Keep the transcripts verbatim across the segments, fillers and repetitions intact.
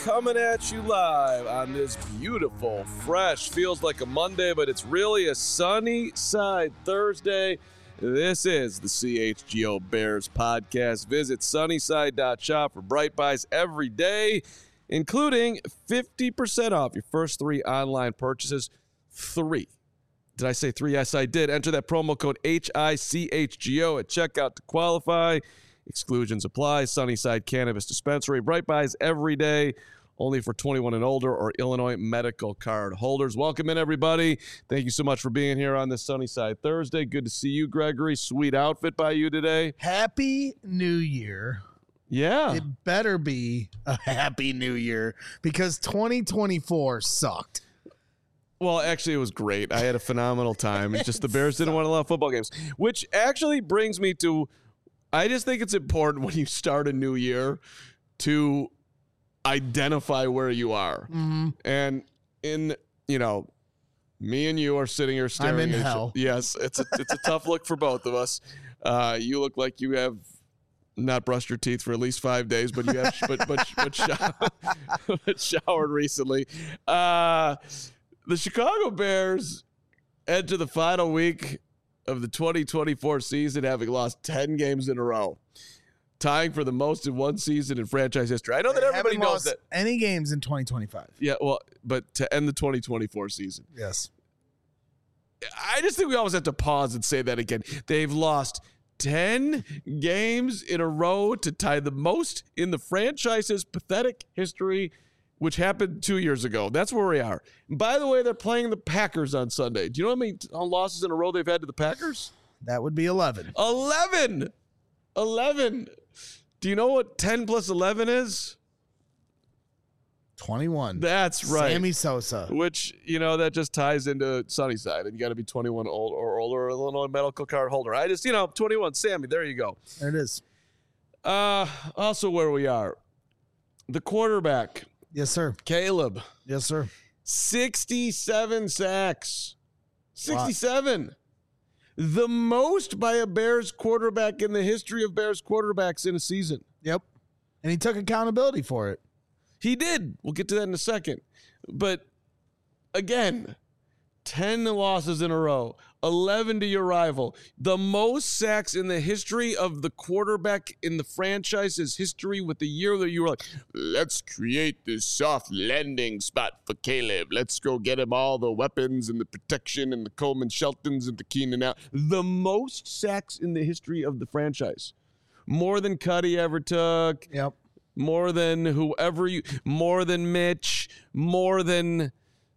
coming at you live on this beautiful, fresh, feels like a Monday, but it's really a sunny side Thursday. This is the C H G O Bears podcast. Visit sunnyside dot shop for Bright Buys every day, including fifty percent off your first three online purchases. Three. Did I say three? Yes, I did. Enter that promo code H I C H G O at checkout to qualify. Exclusions apply. Sunnyside Cannabis Dispensary. Bright Buys every day. Only for twenty-one and older or Illinois medical card holders. Welcome in, everybody. Thank you so much for being here on this Sunnyside Thursday. Good to see you, Gregory. Sweet outfit by you today. Happy New Year. Yeah. It better be a happy New Year because twenty twenty-four sucked. Well, actually, it was great. I had a phenomenal time. It's just the Bears didn't want a lot of football games, which actually brings me to, I just think it's important when you start a new year to identify where you are. Mm-hmm. And in, you know, me and you are sitting here staring I'm in at hell. Each, yes, it's a, it's a tough look for both of us. Uh, you look like you have not brushed your teeth for at least five days, but you have but but but, shower, but showered recently. Uh, the Chicago Bears enter the final week of the twenty twenty-four season, having lost ten games in a row, tying for the most in one season in franchise history. I know that They everybody haven't knows lost that. any games in twenty twenty-five. Yeah, well, but to end the twenty twenty-four season. Yes. I just think we always have to pause and say that again. They've lost ten games in a row to tie the most in the franchise's pathetic history, which happened two years ago. That's where we are. And by the way, they're playing the Packers on Sunday. Do you know how many losses in a row they've had to the Packers? That would be eleven. eleven. eleven. Do you know what ten plus eleven is? twenty-one. That's right. Sammy Sosa. Which, you know, that just ties into Sunnyside. And you got to be twenty-one old or older, or Illinois medical card holder. I just, you know, twenty-one, Sammy, there you go. There it is. Uh, also where we are. The quarterback, Yes, sir. Caleb. Yes, sir. sixty-seven sacks. sixty-seven. The most by a Bears quarterback in the history of Bears quarterbacks in a season. Yep. And he took accountability for it. He did. We'll get to that in a second. But again, ten losses in a row, eleven to your rival. The most sacks in the history of the quarterback in the franchise's history, with the year that you were like, let's create this soft landing spot for Caleb. Let's go get him all the weapons and the protection and the Coleman Sheltons and the Keenan out. The most sacks in the history of the franchise. More than Cuddy ever took. Yep. More than whoever you, more than Mitch, more than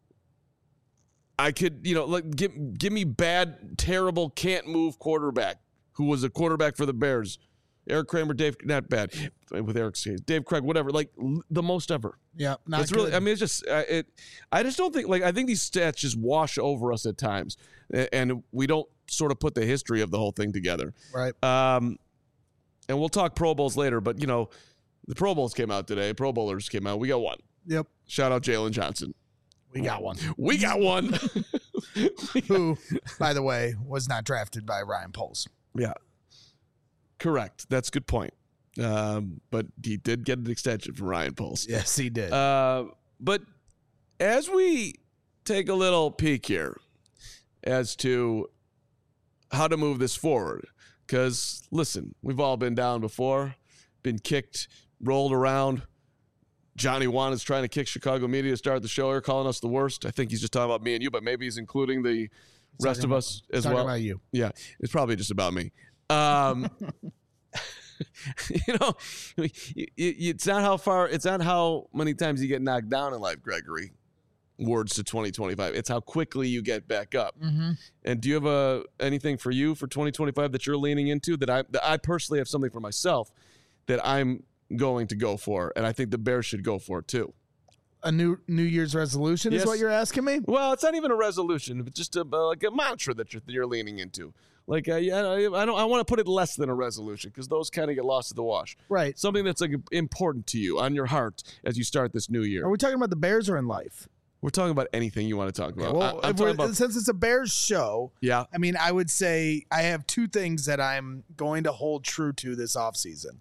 I could, you know, like give, give me bad, terrible, can't move quarterback who was a quarterback for the Bears. Eric Kramer, Dave, not bad with Eric's case. Dave Craig, whatever, like the most ever. Yeah, not it's good. really, I mean, it's just, uh, it, I just don't think, like, I think these stats just wash over us at times, and we don't sort of put the history of the whole thing together. Right. Um, and we'll talk Pro Bowls later, but, you know, the Pro Bowls came out today. Pro Bowlers came out. We got one. Yep. Shout out Jalen Johnson. We got one. We got one. Who, by the way, was not drafted by Ryan Poles. Yeah. Correct. That's a good point. Um, but he did get an extension from Ryan Poles. Yes, he did. Uh, but as we take a little peek here as to how to move this forward, because, listen, we've all been down before, been kicked, rolled around. Johnny Wan is trying to kick Chicago media to start the show here, calling us the worst. I think he's just talking about me and you, but maybe he's including the It's rest of about, us as talking well. about you. Yeah, it's probably just about me. Um, you know, it's not how far, it's not how many times you get knocked down in life, Gregory. Words to twenty twenty-five. It's how quickly you get back up. Mm-hmm. And do you have a anything for you for twenty twenty-five that you're leaning into? That I that I personally have something for myself that I'm going to go for, and I think the Bears should go for it too. A new New Year's resolution Yes. is what you're asking me? Well, it's not even a resolution, but just a, uh, like a mantra that you're, you're leaning into. Like, uh, yeah, I don't. I want to put it less than a resolution because those kind of get lost in the wash. Right. Something that's like important to you on your heart as you start this new year. Are we talking about the Bears or in life? We're talking about anything you want to talk about. Well, I, I'm if we're- talking about, since it's a Bears show, yeah, I mean, I would say I have two things that I'm going to hold true to this offseason. Yep.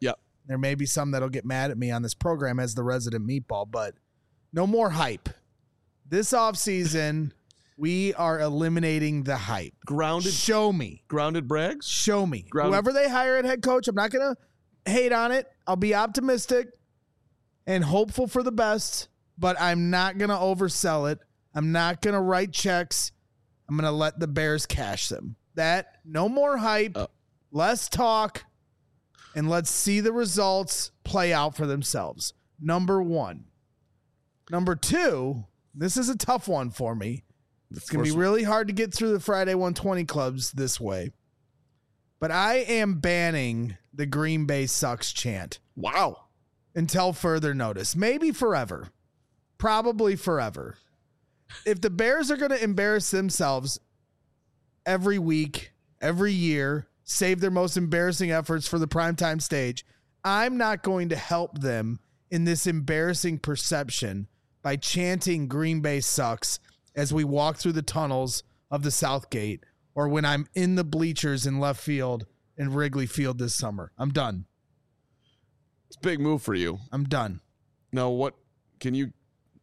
There may be some that'll get mad at me on this program as the resident meatball, but no more hype. This offseason, we are eliminating the hype. Grounded. Show me. Grounded Braggs? Show me. Grounded. Whoever they hire at head coach, I'm not going to hate on it. I'll be optimistic and hopeful for the best, but I'm not going to oversell it. I'm not going to write checks. I'm going to let the Bears cash them. That, no more hype, uh, less talk, and let's see the results play out for themselves. Number one. Number two, this is a tough one for me. It's going to be really hard to get through the Friday one twenty clubs this way. But I am banning the Green Bay sucks chant. Wow. Until further notice. Maybe forever. Probably forever. If the Bears are going to embarrass themselves every week, every year, save their most embarrassing efforts for the primetime stage, I'm not going to help them in this embarrassing perception by chanting Green Bay sucks as we walk through the tunnels of the Southgate or when I'm in the bleachers in left field in Wrigley Field this summer. I'm done. It's a big move for you. I'm done. Now, what can you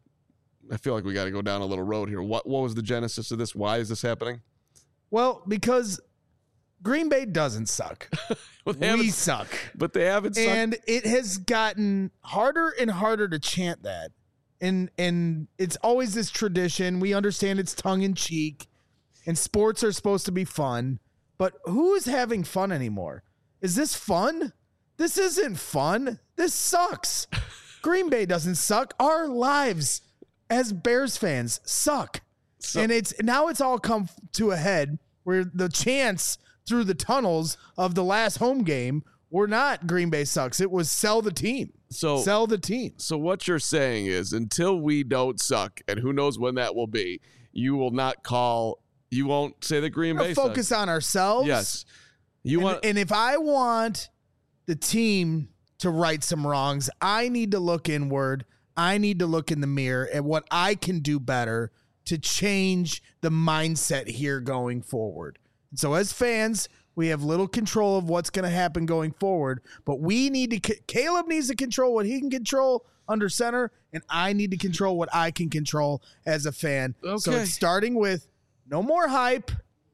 I feel like we got to go down a little road here. What what was the genesis of this? Why is this happening? Well, because Green Bay doesn't suck. well, we suck. But they haven't sucked. And it has gotten harder and harder to chant that. And and it's always this tradition. We understand it's tongue in cheek and sports are supposed to be fun. But who is having fun anymore? Is this fun? This isn't fun. This sucks. Green Bay doesn't suck. Our lives as Bears fans suck. So, and it's now it's all come to a head where the chants through the tunnels of the last home game were not Green Bay sucks. It was sell the team. So sell the team. So what you're saying is until we don't suck, and who knows when that will be, you will not call, you won't say the Green Bay sucks. Focus on ourselves. Yes. You and, want, and if I want the team to right some wrongs, I need to look inward. I need to look in the mirror at what I can do better to change the mindset here going forward. And so as fans, we have little control of what's going to happen going forward, but we need to, Caleb needs to control what he can control under center, and I need to control what I can control as a fan. Okay. So it's starting with no more hype.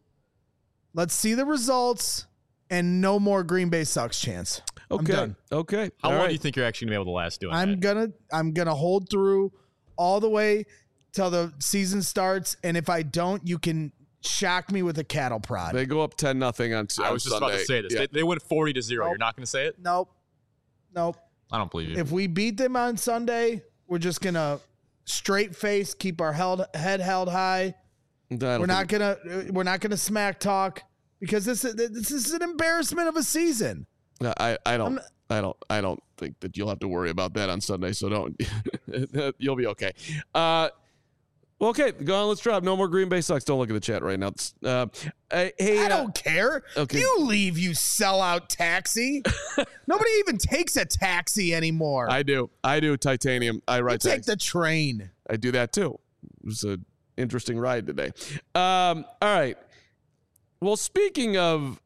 Let's see the results and no more Green Bay sucks chance. Okay. I'm done. Okay. How all long right. do you think you're actually going to be able to last doing I'm that? gonna I'm gonna hold through all the way till the season starts, and if I don't, you can shock me with a cattle prod. They go up ten nothing on, on I was just Sunday. about to say this. Yeah. They, they went forty to zero. Nope. You're not going to say it? Nope. Nope. I don't believe you. If we beat them on Sunday, we're just gonna straight face, keep our held, head held high. We're not gonna we're not gonna smack talk because this is this is an embarrassment of a season. I, I don't not, I don't I don't think that you'll have to worry about that on Sunday, so don't you'll be okay. Uh well, okay, go on, let's drop. No more Green Bay sucks. Don't look at the chat right now. Uh, hey, I uh, don't care. Okay. You leave, you sellout taxi. Nobody even takes a taxi anymore. I do. I do titanium. I ride you take taxi. the train. I do that too. It was an interesting ride today. Um, all right. Well, speaking of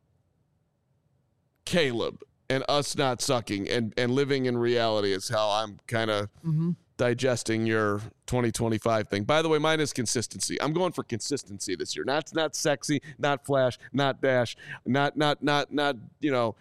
Caleb and us not sucking and, and living in reality is how I'm kind of Mm-hmm. digesting your twenty twenty-five thing. By the way, mine is consistency. I'm going for consistency this year. Not not sexy, not flash, not dash, not not not not you know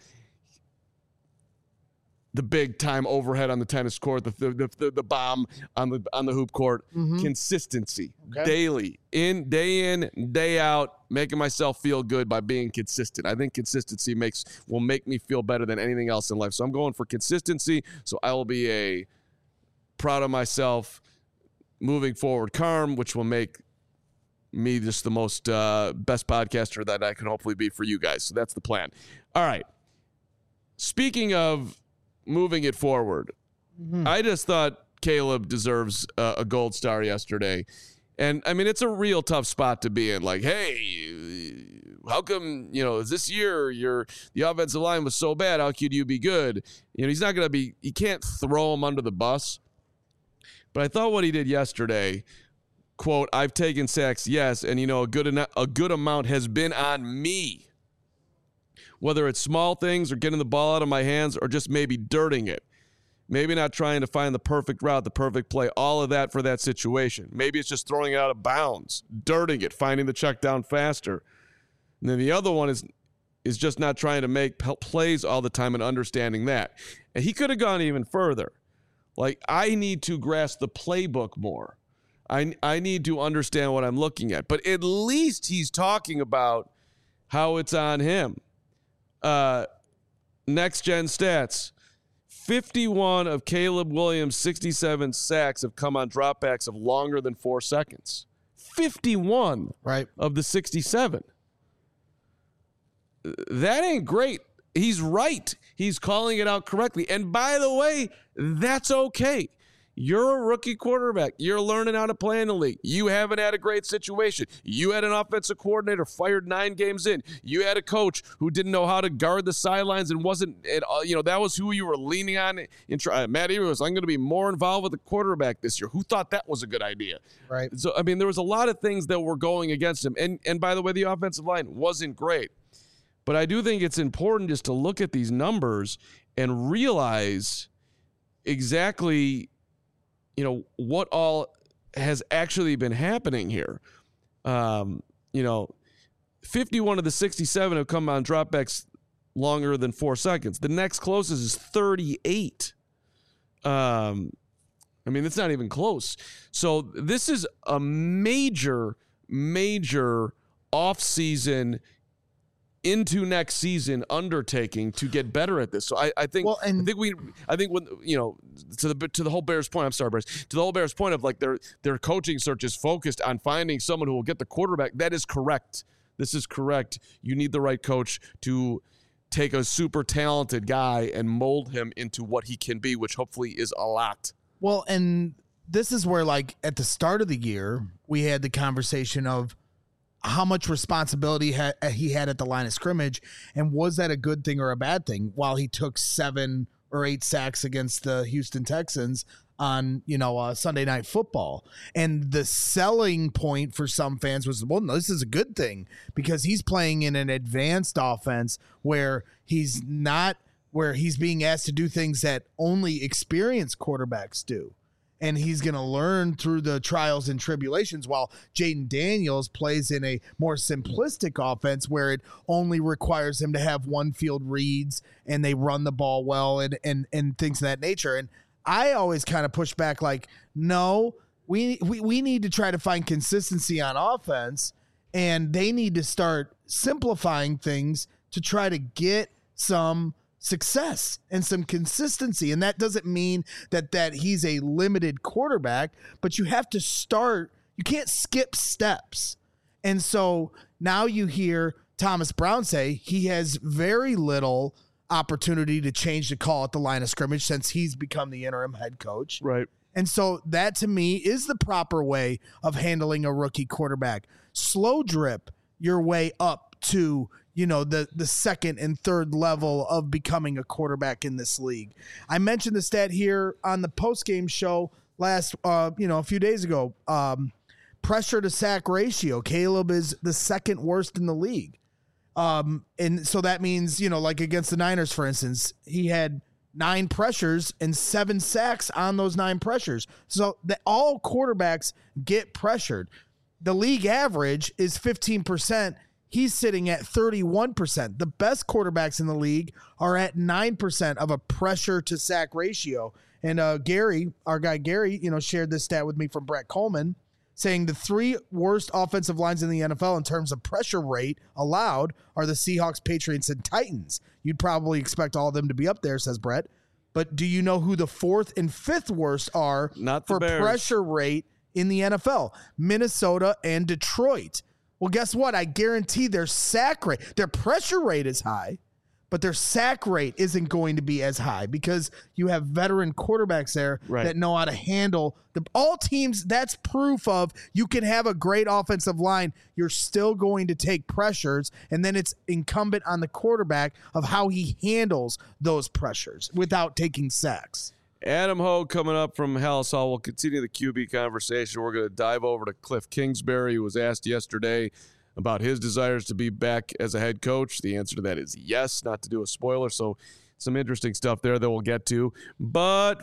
the big time overhead on the tennis court, the the the, the bomb on the on the hoop court. Mm-hmm. Consistency, Okay. daily, in day in, day out, making myself feel good by being consistent. I think consistency makes will make me feel better than anything else in life. So I'm going for consistency. So I will be a proud of myself moving forward Carm, which will make me just the most uh, best podcaster that I can hopefully be for you guys. So that's the plan. All right. Speaking of moving it forward, Mm-hmm. I just thought Caleb deserves uh, a gold star yesterday. And I mean, it's a real tough spot to be in. Like, hey, how come, you know, this year your the offensive line was so bad? How could you be good? You know, he's not going to be, you can't throw him under the bus. But I thought what he did yesterday, quote, I've taken sacks, yes, and, you know, a good, eno- a good amount has been on me. whether it's small things or getting the ball out of my hands or just maybe dirting it. Maybe not trying to find the perfect route, the perfect play, all of that for that situation. Maybe it's just throwing it out of bounds, dirting it, finding the check down faster. And then the other one is is just not trying to make p- plays all the time and understanding that. And he could have gone even further. Like, I need to grasp the playbook more. I, I need to understand what I'm looking at. But at least he's talking about how it's on him. Uh, next gen stats. fifty-one of Caleb Williams' sixty-seven sacks have come on dropbacks of longer than four seconds. fifty-one right. of the sixty-seven. That ain't great. He's right. He's calling it out correctly. And by the way, that's okay. You're a rookie quarterback. You're learning how to play in the league. You haven't had a great situation. You had an offensive coordinator fired nine games in. You had a coach who didn't know how to guard the sidelines and wasn't, you know, that was who you were leaning on. In try, Matt Eberflus was, I'm going to be more involved with the quarterback this year. Who thought that was a good idea? Right. So, I mean, there was a lot of things that were going against him. And, and by the way, the offensive line wasn't great. But I do think it's important just to look at these numbers and realize exactly, you know, what all has actually been happening here. Um, you know, fifty-one of the sixty-seven have come on dropbacks longer than four seconds. The next closest is thirty-eight. Um, I mean, it's not even close. So this is a major, major off-season into next season undertaking to get better at this. So I, I think well, and- I think we I think when you know to the to the whole Bears point, I'm sorry, Bears, to the whole Bears point of like their their coaching search is focused on finding someone who will get the quarterback. That is correct. This is correct. You need the right coach to take a super talented guy and mold him into what he can be, which hopefully is a lot. Well, and this is where, like, at the start of the year, we had the conversation of how much responsibility ha- he had at the line of scrimmage, and was that a good thing or a bad thing while he took seven or eight sacks against the Houston Texans on, you know, uh, Sunday Night Football. And the selling point for some fans was, well, no, this is a good thing because he's playing in an advanced offense where he's not, where he's being asked to do things that only experienced quarterbacks do. And he's going to learn through the trials and tribulations, while Jaden Daniels plays in a more simplistic offense where it only requires him to have one field reads and they run the ball well and and and things of that nature. And I always kind of push back like, no, we, we we need to try to find consistency on offense, and they need to start simplifying things to try to get some success and some consistency. And that doesn't mean that that he's a limited quarterback, but you have to start, you can't skip steps. And so now you hear Thomas Brown say he has very little opportunity to change the call at the line of scrimmage since he's become the interim head coach. Right. And so that to me is the proper way of handling a rookie quarterback. Slow drip your way up to, you know, the, the second and third level of becoming a quarterback in this league. I mentioned the stat here on the post-game show last, uh, you know, a few days ago. Um, pressure to sack ratio. Caleb is the second worst in the league. Um, and so that means, you know, like against the Niners, for instance, he had nine pressures and seven sacks on those nine pressures. So that all quarterbacks get pressured. The league average is fifteen percent. He's sitting at thirty-one percent. The best quarterbacks in the league are at nine percent of a pressure to sack ratio. And uh, Gary, our guy Gary, you know, shared this stat with me from Brett Coleman, saying the three worst offensive lines in the N F L in terms of pressure rate allowed are the Seahawks, Patriots, and Titans. You'd probably expect all of them to be up there, says Brett. But do you know who the fourth and fifth worst are Not the for Bears. pressure rate in the N F L? Minnesota and Detroit. Well, guess what? I guarantee their sack rate, their pressure rate is high, but their sack rate isn't going to be as high because you have veteran quarterbacks there Right. that know how to handle the all teams. That's proof of you can have a great offensive line. You're still going to take pressures, and then it's incumbent on the quarterback of how he handles those pressures without taking sacks. Adam Hogue coming up from Hallis Hall. We'll continue the Q B conversation. We're going to dive over to Cliff Kingsbury, who was asked yesterday about his desires to be back as a head coach. The answer to that is yes, not to do a spoiler. So some interesting stuff there that we'll get to. But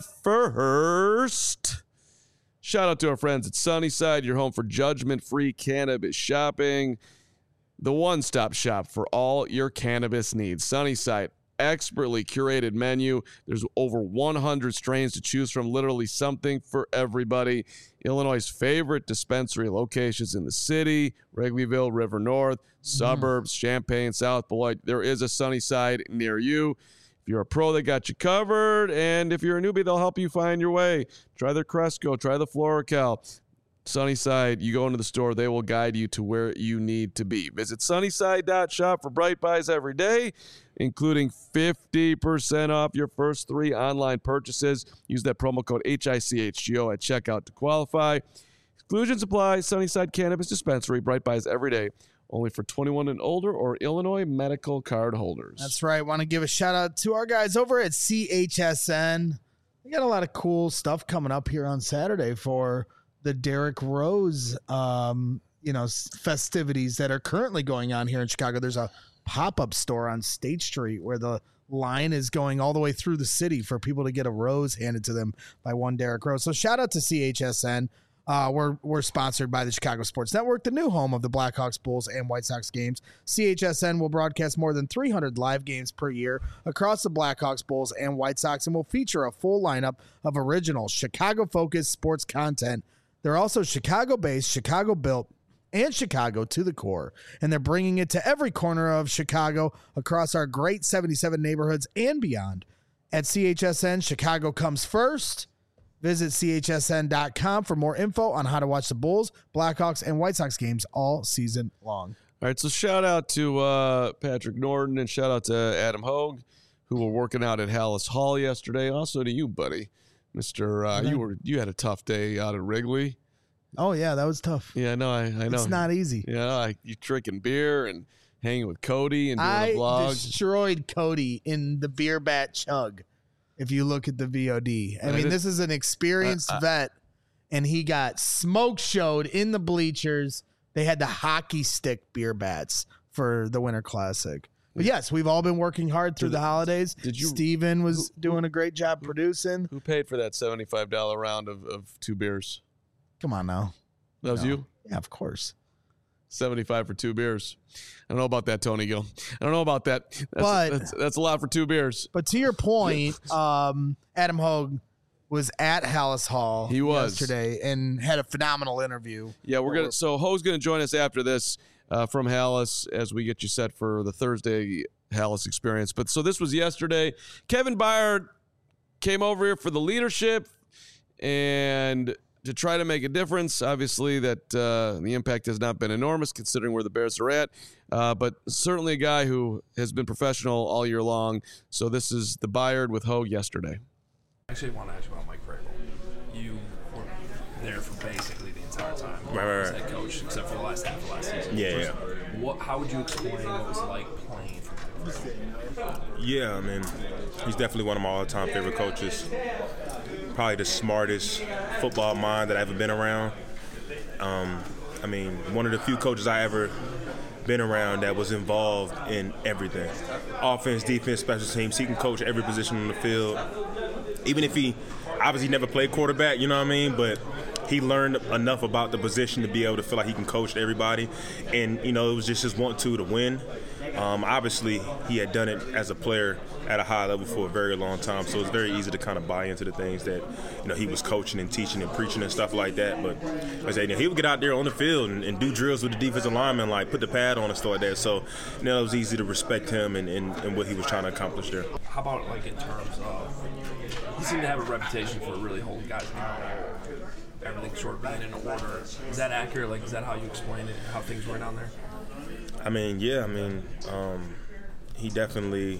first, shout out to our friends at Sunnyside, your home for judgment-free cannabis shopping. The one-stop shop for all your cannabis needs. Sunnyside, expertly curated menu. There's over one hundred strains to choose from, literally something for everybody. Illinois' favorite dispensary locations in the city, Wrigleyville, River North, suburbs, mm. Champaign, South Beloit. There is a Sunnyside near you. If you're a pro, they got you covered. And if you're a newbie, they'll help you find your way. Try their Cresco, try the FloraCal. Sunnyside, you go into the store, they will guide you to where you need to be. Visit sunnyside dot shop for bright buys every day, including fifty percent off your first three online purchases. Use that promo code H I C H G O at checkout to qualify. Exclusions apply. Sunnyside Cannabis Dispensary, bright buys every day. Only for twenty-one and older or Illinois medical card holders. That's right. Want to give a shout out to our guys over at C H S N. We got a lot of cool stuff coming up here on Saturday for the Derrick Rose, um, you know, festivities that are currently going on here in Chicago. There's a pop-up store on State Street where the line is going all the way through the city for people to get a rose handed to them by one Derrick Rose. So shout out to C H S N. Uh, we're we're sponsored by the Chicago Sports Network, the new home of the Blackhawks, Bulls, and White Sox games. C H S N will broadcast more than three hundred live games per year across the Blackhawks, Bulls, and White Sox, and will feature a full lineup of original Chicago-focused sports content. They're also Chicago-based, Chicago-built, and Chicago to the core, and they're bringing it to every corner of Chicago across our great seventy-seven neighborhoods and beyond. At C H S N, Chicago comes first. Visit C H S N dot com for more info on how to watch the Bulls, Blackhawks, and White Sox games all season long. All right, so shout out to uh, Patrick Norton and shout out to Adam Hogue, who were working out at Hallis Hall yesterday. Also to you, buddy, Mister Uh, you were you had a tough day out at Wrigley. Oh yeah, that was tough. Yeah, no, I, I know it's not easy. Yeah, I, you drinking beer and hanging with Cody and doing I a vlog. Destroyed Cody in the beer bat chug. If you look at the V O D, I, I mean, did, this is an experienced uh, uh, vet, and he got smoke showed in the bleachers. They had the hockey stick beer bats for the Winter Classic. But yes, we've all been working hard through did, the holidays. Did you? Steven was who, doing a great job who, producing. Who paid for that seventy-five dollars round of, of two beers? Come on now. That was no. you? Yeah, of course. seventy-five for two beers. I don't know about that, Tony Gill. I don't know about that. That's, but that's, that's a lot for two beers. But to your point, um, Adam Hogue was at Hallis Hall he was. yesterday and had a phenomenal interview. Yeah, we're gonna. So Hogue's gonna join us after this uh, from Hallis as we get you set for the Thursday Hallis experience. But so this was yesterday. Kevin Byard came over here for the leadership and to try to make a difference. Obviously, that uh, the impact has not been enormous considering where the Bears are at, uh, but certainly a guy who has been professional all year long. So this is the Byard with Hogue yesterday. I actually want to ask you about Mike Vrabel. You were there for basically the entire time. Right, right, as right. head coach, except for the last half of last season. Yeah, First, yeah. What, how would you explain what it was like playing for Mike Vrabel? Yeah, I mean, he's definitely one of my all-time favorite coaches. Probably the smartest football mind that I've ever been around. Um, I mean, one of the few coaches I ever been around that was involved in everything. Offense, defense, special teams. He can coach every position on the field. Even if he obviously never played quarterback, you know what I mean? But he learned enough about the position to be able to feel like he can coach everybody. And, you know, it was just his want-to to win. Um, obviously, he had done it as a player at a high level for a very long time, so it's very easy to kind of buy into the things that, you know, he was coaching and teaching and preaching and stuff like that. But I say, you know, he would get out there on the field and, and do drills with the defensive linemen, like put the pad on and stuff like that. So, you know, it was easy to respect him and, and, and what he was trying to accomplish there. How about, like, in terms of, he seemed to have a reputation for really holding guys down, everything sort of being in order. Is that accurate? Like, is that how you explain it, how things were down there? I mean, yeah, I mean, um, he definitely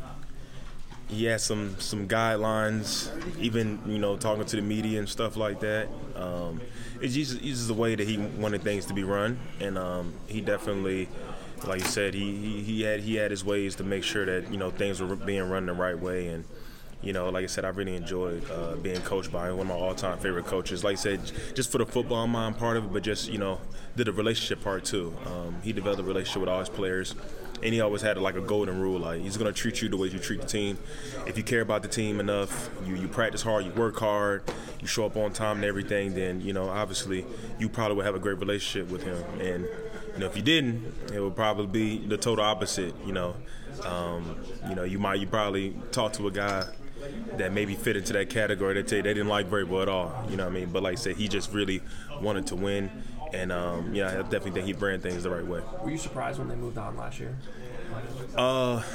he had some some guidelines, even, you know, talking to the media and stuff like that. Um, it's just, it's just the way that he wanted things to be run, and um, he definitely, like you said, he, he he had he had his ways to make sure that, you know, things were being run the right way, and you know, like I said, I really enjoyed uh, being coached by one of my all-time favorite coaches. Like I said, just for the football mind part of it, but just, you know, did the relationship part too. Um, he developed a relationship with all his players, and he always had like a golden rule, like he's going to treat you the way you treat the team. If you care about the team enough, you, you practice hard, you work hard, you show up on time and everything, then, you know, obviously you probably would have a great relationship with him. And, you know, if you didn't, it would probably be the total opposite, you know. Um, you know, you might, you probably talk to a guy that maybe fit into that category that tell you they didn't like Vrabel at all, you know what I mean? But like I said, he just really wanted to win, and um, yeah, I definitely think he ran things the right way. Were you surprised when they moved on last year? Uh,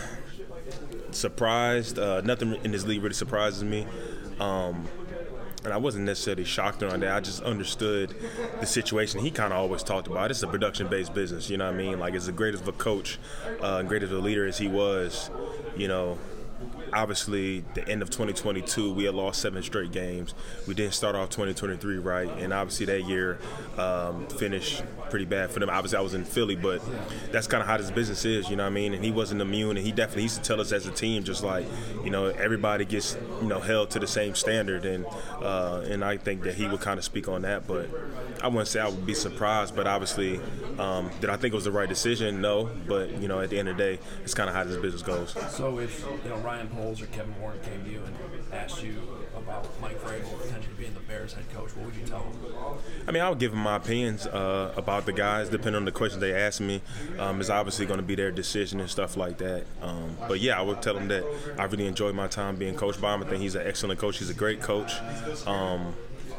surprised. Uh, nothing in this league really surprises me. Um, and I wasn't necessarily shocked on that. I just understood the situation. He kind of always talked about it's a production-based business, you know what I mean? Like, as great of a coach, uh, great of a leader as he was, you know, obviously, the end of twenty twenty-two, we had lost seven straight games. We didn't start off twenty twenty-three right, and obviously that year um, finished pretty bad for them. Obviously, I was in Philly, but that's kind of how this business is, you know what I mean? And he wasn't immune, and he definitely used to tell us as a team, just like, you know, everybody gets, you know, held to the same standard, and uh, and I think that he would kind of speak on that. But I wouldn't say I would be surprised, but obviously, um, did I think it was the right decision? No, but, you know, at the end of the day, it's kind of how this business goes. So if, you know, Ryan Poles or Kevin Warren came to you and asked you about Mike Vrabel potentially being the Bears head coach, what would you tell them? I mean, I would give them my opinions uh, about the guys, depending on the questions they ask me. Um, it's obviously going to be their decision and stuff like that. Um, but yeah, I would tell them that I really enjoyed my time being coached by him. I think he's an excellent coach. He's a great coach. Um,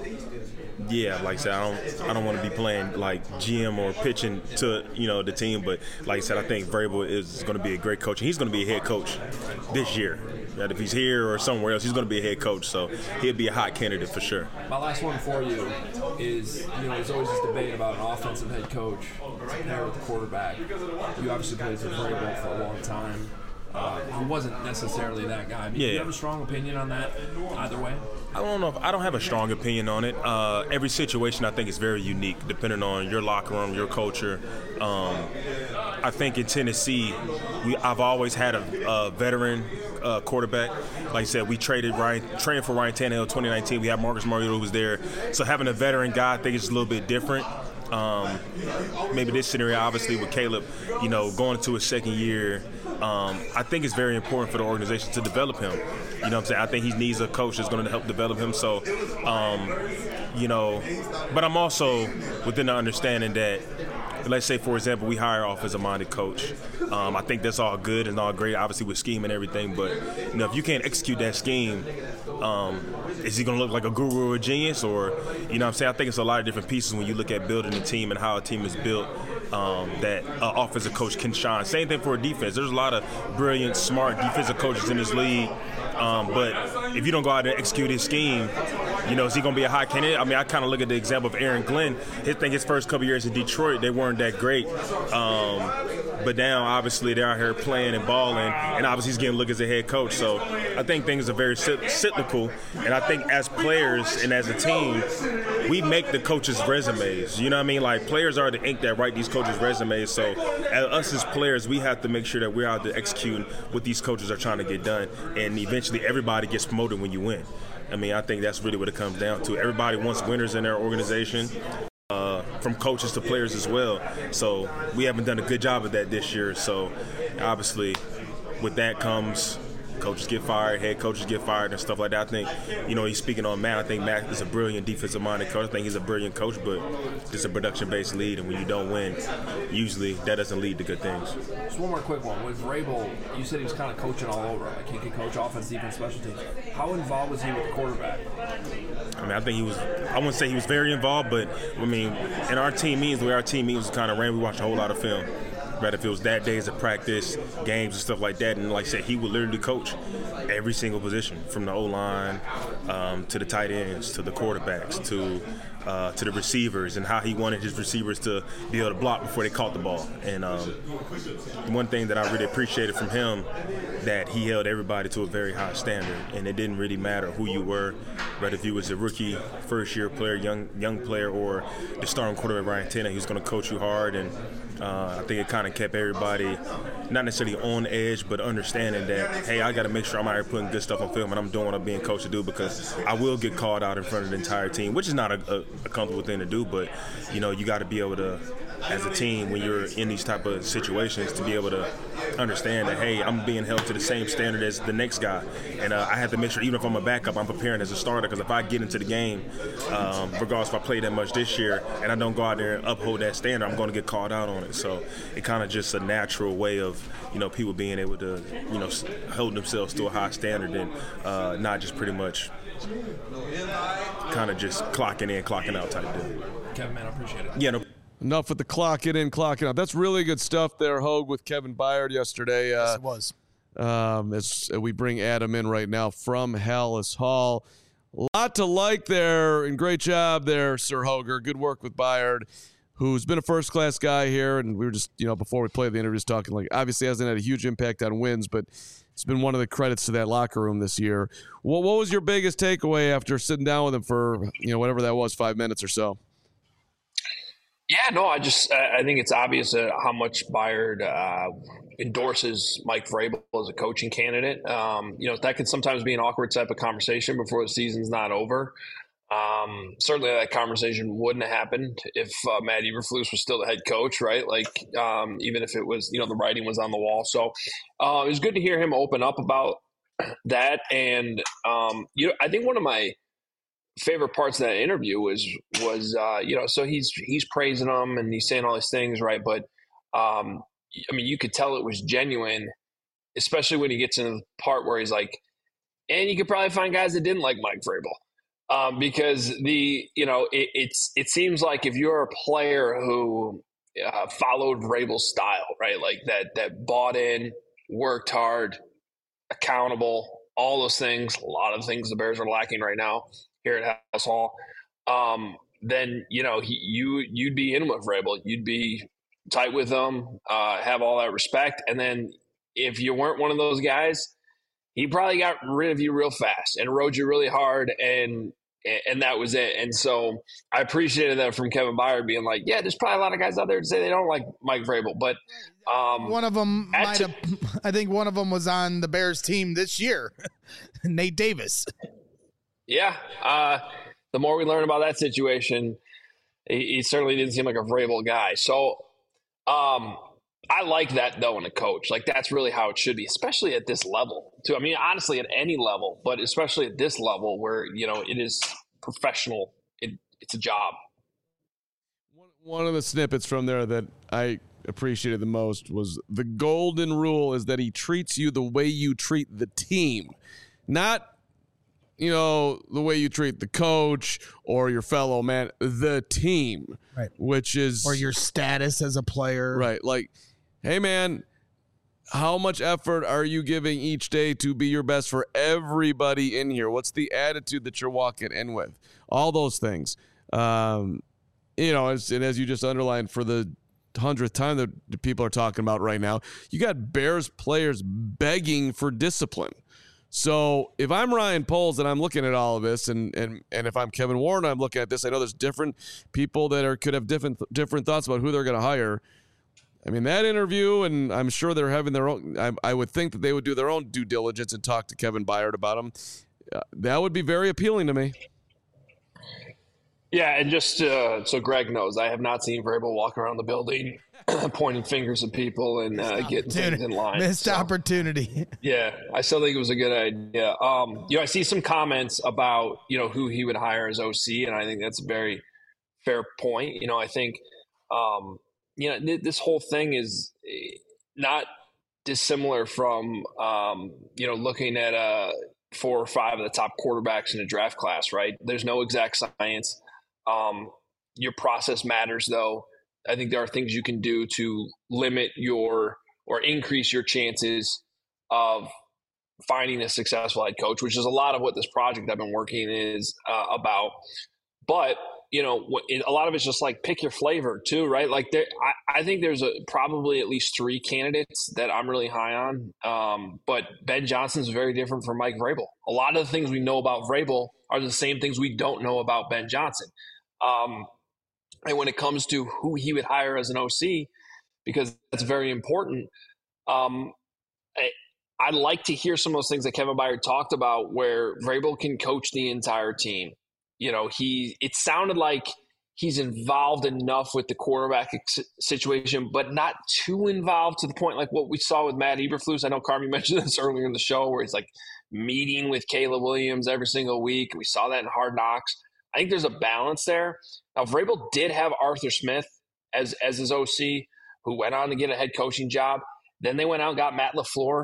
Yeah, like I said, I don't, I don't want to be playing like G M or pitching to, you know, the team. But like I said, I think Vrabel is going to be a great coach. And he's going to be a head coach this year. Right? If he's here or somewhere else, he's going to be a head coach. So he'll be a hot candidate for sure. My last one for you is, you know, there's always this debate about an offensive head coach compared with the quarterback. You obviously played for Vrabel for a long time. Uh, he wasn't necessarily that guy. I mean, Yeah, do you yeah. have a strong opinion on that either way? I don't know if I don't have a strong opinion on it. Uh, every situation I think is very unique, depending on your locker room, your culture. Um, I think in Tennessee, we I've always had a, a veteran uh, quarterback. Like I said, we traded Ryan, traded for Ryan Tannehill in twenty nineteen. We had Marcus Mariota who was there. So having a veteran guy, I think it's a little bit different. Um, maybe this scenario, obviously, with Caleb, you know, going into his second year, um, I think it's very important for the organization to develop him. You know what I'm saying? I think he needs a coach that's going to help develop him. So, um, you know, but I'm also within the understanding that, let's say, for example, we hire an offensive-minded coach. Um, I think that's all good and all great, obviously, with scheme and everything. But, you know, if you can't execute that scheme, um, is he going to look like a guru or a genius? Or, you know what I'm saying? I think it's a lot of different pieces when you look at building a team and how a team is built um, that an offensive coach can shine. Same thing for a defense. There's a lot of brilliant, smart defensive coaches in this league. Um, but if you don't go out and execute his scheme, you know, is he going to be a high candidate? I mean, I kind of look at the example of Aaron Glenn. I think his first couple years in Detroit, they weren't that great. Um, but now, obviously, they're out here playing and balling, and obviously he's getting a look as a head coach. So I think things are very cyclical. And I think as players and as a team, we make the coaches' resumes. You know what I mean? Like, players are the ink that write these coaches' resumes. So as us as players, we have to make sure that we're out there executing what these coaches are trying to get done. And eventually everybody gets promoted when you win. I mean, I think that's really what it comes down to. Everybody wants winners in their organization, uh, from coaches to players as well. So we haven't done a good job of that this year. So obviously with that comes coaches get fired, head coaches get fired and stuff like that. I think, you know, he's speaking on Matt. I think Matt is a brilliant defensive-minded coach. I think he's a brilliant coach, but it's a production-based lead, and when you don't win, usually that doesn't lead to good things. Just one more quick one. With Vrabel, you said he was kind of coaching all over. Like, he could coach offense, defense, special teams. How involved was he with the quarterback? I mean, I think he was, I wouldn't say he was very involved, but, I mean, in our team meetings, the way our team meetings kind of ran, we watched a whole lot of film. Right, if it was that days of practice, games and stuff like that, and like I said, he would literally coach every single position, from the O-line um, to the tight ends, to the quarterbacks, to uh, to the receivers, and how he wanted his receivers to be able to block before they caught the ball. And um, one thing that I really appreciated from him, that he held everybody to a very high standard, and it didn't really matter who you were, whether if you was a rookie, first-year player, young young player, or the starting quarterback Ryan Tannehill. He was going to coach you hard, and Uh, I think it kind of kept everybody not necessarily on edge, but understanding that, hey, I got to make sure I'm out here putting good stuff on film and I'm doing what I'm being coached to do, because I will get called out in front of the entire team, which is not a, a, a comfortable thing to do. But, you know, you got to be able to, as a team, when you're in these type of situations, to be able to understand that, hey, I'm being held to the same standard as the next guy. And uh, I have to make sure, even if I'm a backup, I'm preparing as a starter, because if I get into the game, um, regardless if I play that much this year, and I don't go out there and uphold that standard, I'm going to get called out on it. So it kind of just a natural way of, you know, people being able to, you know, hold themselves to a high standard and uh, not just pretty much kind of just clocking in, clocking out type deal. Kevin, man, I appreciate it. Yeah, no. Enough with the clocking in, clocking out. That's really good stuff there, Hogue, with Kevin Byard yesterday. Uh, Yes, it was. Um, as we bring Adam in right now from Hallis Hall. A lot to like there, and great job there, Sir Hoger. Good work with Byard, who's been a first-class guy here, and we were just, you know, before we played the interview, just talking, like, obviously hasn't had a huge impact on wins, but it's been one of the credits to that locker room this year. What, what was your biggest takeaway after sitting down with him for, you know, whatever that was, five minutes or so? Yeah, no, I just I think it's obvious uh, how much Byard uh, endorses Mike Vrabel as a coaching candidate. Um, you know, that could sometimes be an awkward type of conversation before the season's not over. Um, certainly that conversation wouldn't have happened if uh, Matt Eberflus was still the head coach, right? Like, um, even if it was, you know, the writing was on the wall. So uh, it was good to hear him open up about that. And, um, you know, I think one of my favorite parts of that interview was was uh you know so he's he's praising them and he's saying all these things, right? But um I mean, you could tell it was genuine, especially when he gets in the part where he's like, and you could probably find guys that didn't like Mike Vrabel, um because the you know it, it's it seems like if you're a player who uh, followed Vrabel's style, right, like that that bought in, worked hard, accountable, all those things, a lot of things the Bears are lacking right now here at Hallis Hall, um, then, you know, he, you, you'd be in with Vrabel. You'd be tight with them, uh, have all that respect. And then if you weren't one of those guys, he probably got rid of you real fast and rode you really hard, and and that was it. And so I appreciated that from Kevin Byard being like, yeah, there's probably a lot of guys out there to say they don't like Mike Vrabel. But um, one of them might t- have – I think one of them was on the Bears team this year, Nate Davis. Yeah, uh, the more we learn about that situation, he, he certainly didn't seem like a Vrabel guy. So um, I like that, though, in a coach. Like, that's really how it should be, especially at this level, too. I mean, honestly, at any level, but especially at this level where, you know, it is professional. It, it's a job. One of the snippets from there that I appreciated the most was the golden rule is that he treats you the way you treat the team, not – you know, the way you treat the coach or your fellow man, the team, right? Which is, or your status as a player, right? Like, hey man, how much effort are you giving each day to be your best for everybody in here? What's the attitude that you're walking in with? All those things, um, you know, as, and as you just underlined for the hundredth time that the people are talking about right now, you got Bears players begging for discipline. So if I'm Ryan Poles and I'm looking at all of this, and and and if I'm Kevin Warren, I'm looking at this, I know there's different people that are could have different different thoughts about who they're going to hire. I mean, that interview, and I'm sure they're having their own, I, I would think that they would do their own due diligence and talk to Kevin Byard about him. Uh, that would be very appealing to me. Yeah, and just uh, so Greg knows, I have not seen Vrabel walk around the building pointing fingers at people and uh, getting things in line. Missed so, opportunity. Yeah, I still think it was a good idea. Um, you know, I see some comments about, you know, who he would hire as O C, and I think that's a very fair point. You know, I think, um, you know, th- this whole thing is not dissimilar from, um, you know, looking at uh, four or five of the top quarterbacks in a draft class, right? There's no exact science. Um, your process matters, though. I think there are things you can do to limit your or increase your chances of finding a successful head coach, which is a lot of what this project I've been working is uh, about. But, you know, it, a lot of it's just like pick your flavor too, right? Like there, I, I think there's a, probably at least three candidates that I'm really high on. Um, but Ben Johnson's very different from Mike Vrabel. A lot of the things we know about Vrabel are the same things we don't know about Ben Johnson. Um, and when it comes to who he would hire as an O C, because that's very important. Um, I, I like to hear some of those things that Kevin Byard talked about, where Vrabel can coach the entire team. You know, he it sounded like he's involved enough with the quarterback situation, but not too involved to the point like what we saw with Matt Eberflus. I know Carmi mentioned this earlier in the show, where he's like meeting with Caleb Williams every single week. We saw that in Hard Knocks. I think there's a balance there. Now, Vrabel did have Arthur Smith as as his O C, who went on to get a head coaching job. Then they went out and got Matt LaFleur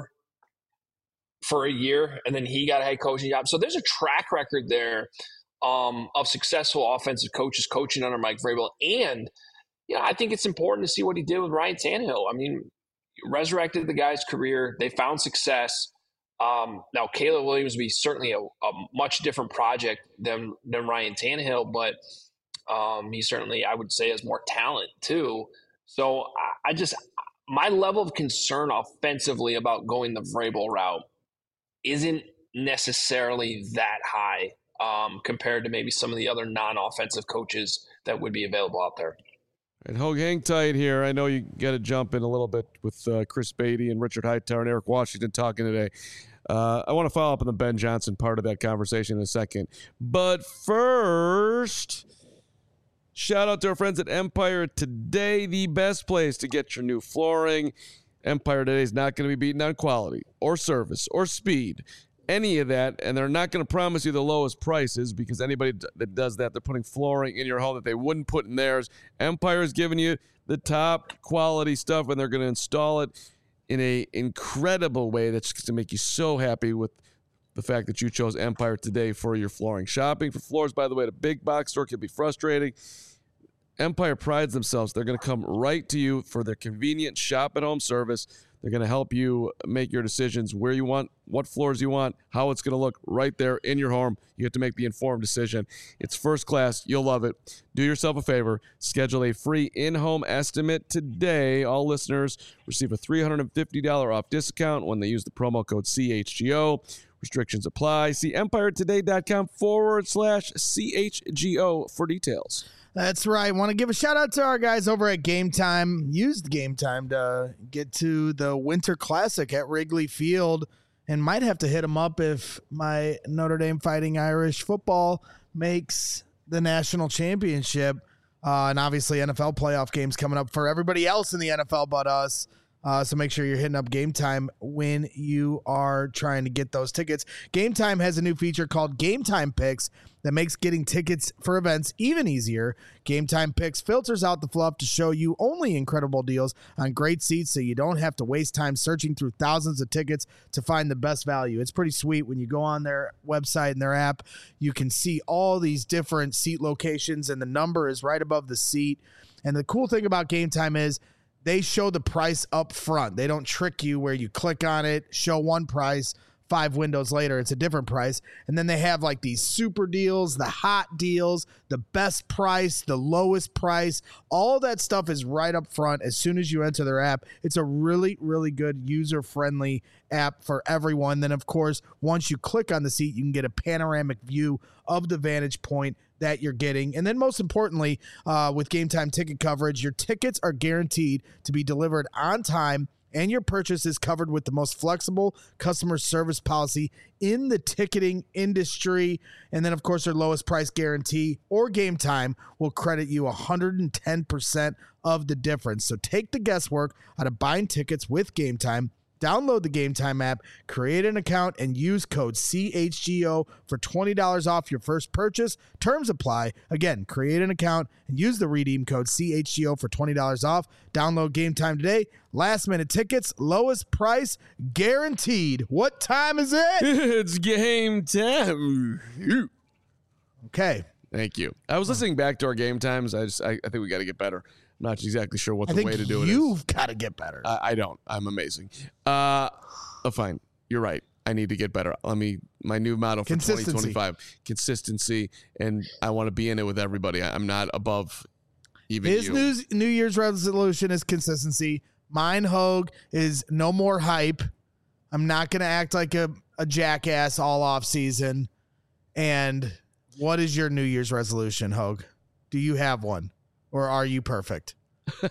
for a year, and then he got a head coaching job. So there's a track record there um, of successful offensive coaches coaching under Mike Vrabel. And, you know, I think it's important to see what he did with Ryan Tannehill. I mean, resurrected the guy's career. They found success. Um, now, Caleb Williams would be certainly a, a much different project than, than Ryan Tannehill, but um, he certainly, I would say, has more talent too. So I, I just – my level of concern offensively about going the Vrabel route isn't necessarily that high um, compared to maybe some of the other non-offensive coaches that would be available out there. And Hogue, hang tight here. I know you got to jump in a little bit with uh, Chris Beatty and Richard Hightower and Eric Washington talking today. Uh, I want to follow up on the Ben Johnson part of that conversation in a second. But first, shout out to our friends at Empire Today, the best place to get your new flooring. Empire Today is not going to be beaten on quality or service or speed, any of that, and they're not going to promise you the lowest prices, because anybody that does that, they're putting flooring in your home that they wouldn't put in theirs. Empire is giving you the top quality stuff, and they're going to install it in a incredible way that's going to make you so happy with the fact that you chose Empire Today for your flooring. Shopping for floors, by the way, at a big box store can be frustrating. Empire prides themselves. They're going to come right to you for their convenient shop-at-home service. They're going to help you make your decisions where you want, what floors you want, how it's going to look right there in your home. You have to make the informed decision. It's first class. You'll love it. Do yourself a favor. Schedule a free in-home estimate today. All listeners receive a three hundred fifty dollars off discount when they use the promo code C H G O. Restrictions apply. See empiretoday.com forward slash CHGO for details. That's right. Want to give a shout out to our guys over at Game Time. Used Game Time to get to the Winter Classic at Wrigley Field, and might have to hit them up if my Notre Dame Fighting Irish football makes the national championship. Uh, and obviously N F L playoff games coming up for everybody else in the N F L but us. Uh, so make sure you're hitting up Game Time when you are trying to get those tickets. Game Time has a new feature called Game Time Picks that makes getting tickets for events even easier. Game Time Picks filters out the fluff to show you only incredible deals on great seats, so you don't have to waste time searching through thousands of tickets to find the best value. It's pretty sweet. When you go on their website and their app, you can see all these different seat locations, and the number is right above the seat. And the cool thing about Game Time is they show the price up front. They don't trick you where you click on it, show one price, five windows later, it's a different price. And then they have like these super deals, the hot deals, the best price, the lowest price. All that stuff is right up front as soon as you enter their app. It's a really, really good user-friendly app for everyone. Then, of course, once you click on the seat, you can get a panoramic view of the vantage point that you're getting. And then most importantly, uh, with Game Time ticket coverage, your tickets are guaranteed to be delivered on time, and your purchase is covered with the most flexible customer service policy in the ticketing industry. And then, of course, their lowest price guarantee or Game Time will credit you one hundred ten percent of the difference. So take the guesswork out of buying tickets with Game Time. Download the Game Time app, create an account, and use code C H G O for twenty dollars off your first purchase. Terms apply. Again, create an account and use the redeem code C H G O for twenty dollars off. Download Game Time today. Last minute tickets, lowest price guaranteed. What time is it? It's game time. Okay. Thank you. I was listening back to our game times. I just, I, I think we got to get better. I'm not exactly sure what I the think way to do it is. You've got to get better. I, I don't. I'm amazing. Uh, oh, fine. You're right. I need to get better. Let me. My new motto for twenty twenty-five: consistency, and I want to be in it with everybody. I, I'm not above even His you. New, New Year's resolution is consistency. Mine, Hogue, is no more hype. I'm not going to act like a, a jackass all off season. And what is your New Year's resolution, Hogue? Do you have one? Or are you perfect?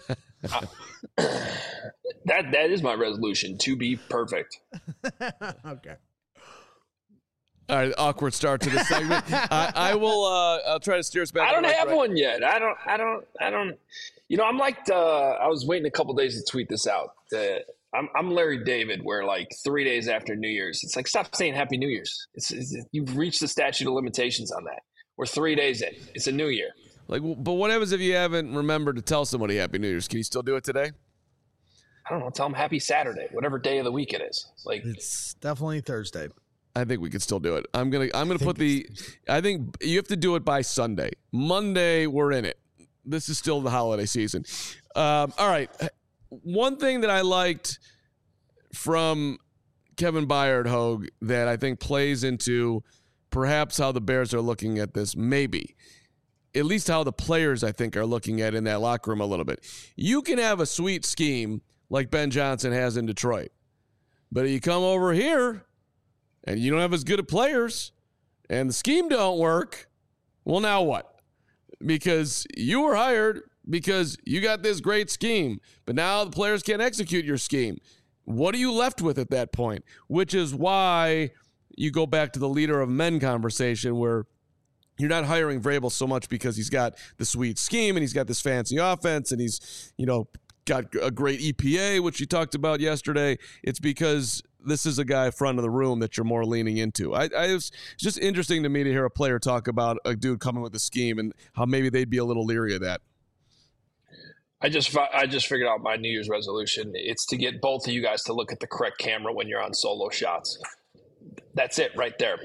uh, that that is my resolution, to be perfect. Okay. All right, awkward start to the segment. I, I will. Uh, I'll try to steer us back. I don't to the have right. one yet. I don't. I don't. I don't. You know, I'm like. The, I was waiting a couple days to tweet this out. The, I'm, I'm Larry David, where like three days after New Year's, it's like stop saying Happy New Year's. It's, it's you've reached the statute of limitations on that. We're three days in. It's a new year. Like, but what happens if you haven't remembered to tell somebody Happy New Year's? Can you still do it today? I don't know. Tell them Happy Saturday, whatever day of the week it is. Like It's definitely Thursday. I think we could still do it. I'm gonna. I'm gonna put the. I think you have to do it by Sunday. Monday, we're in it. This is still the holiday season. Um, all right. One thing that I liked from Kevin Byard, Hogue, that I think plays into perhaps how the Bears are looking at this, maybe at least how the players I think are looking at it in that locker room a little bit. You can have a sweet scheme like Ben Johnson has in Detroit, but you come over here and you don't have as good of players, and the scheme don't work, well, now what? Because you were hired because you got this great scheme, but now the players can't execute your scheme. What are you left with at that point? Which is why you go back to the leader of men conversation, where you're not hiring Vrabel so much because he's got the sweet scheme and he's got this fancy offense and he's, you know, got a great E P A, which you talked about yesterday. It's because this is a guy front of the room that you're more leaning into. I, I was it's just interesting to me to hear a player talk about a dude coming with a scheme and how maybe they'd be a little leery of that. I just I just figured out my New Year's resolution. It's to get both of you guys to look at the correct camera when you're on solo shots. That's it right there.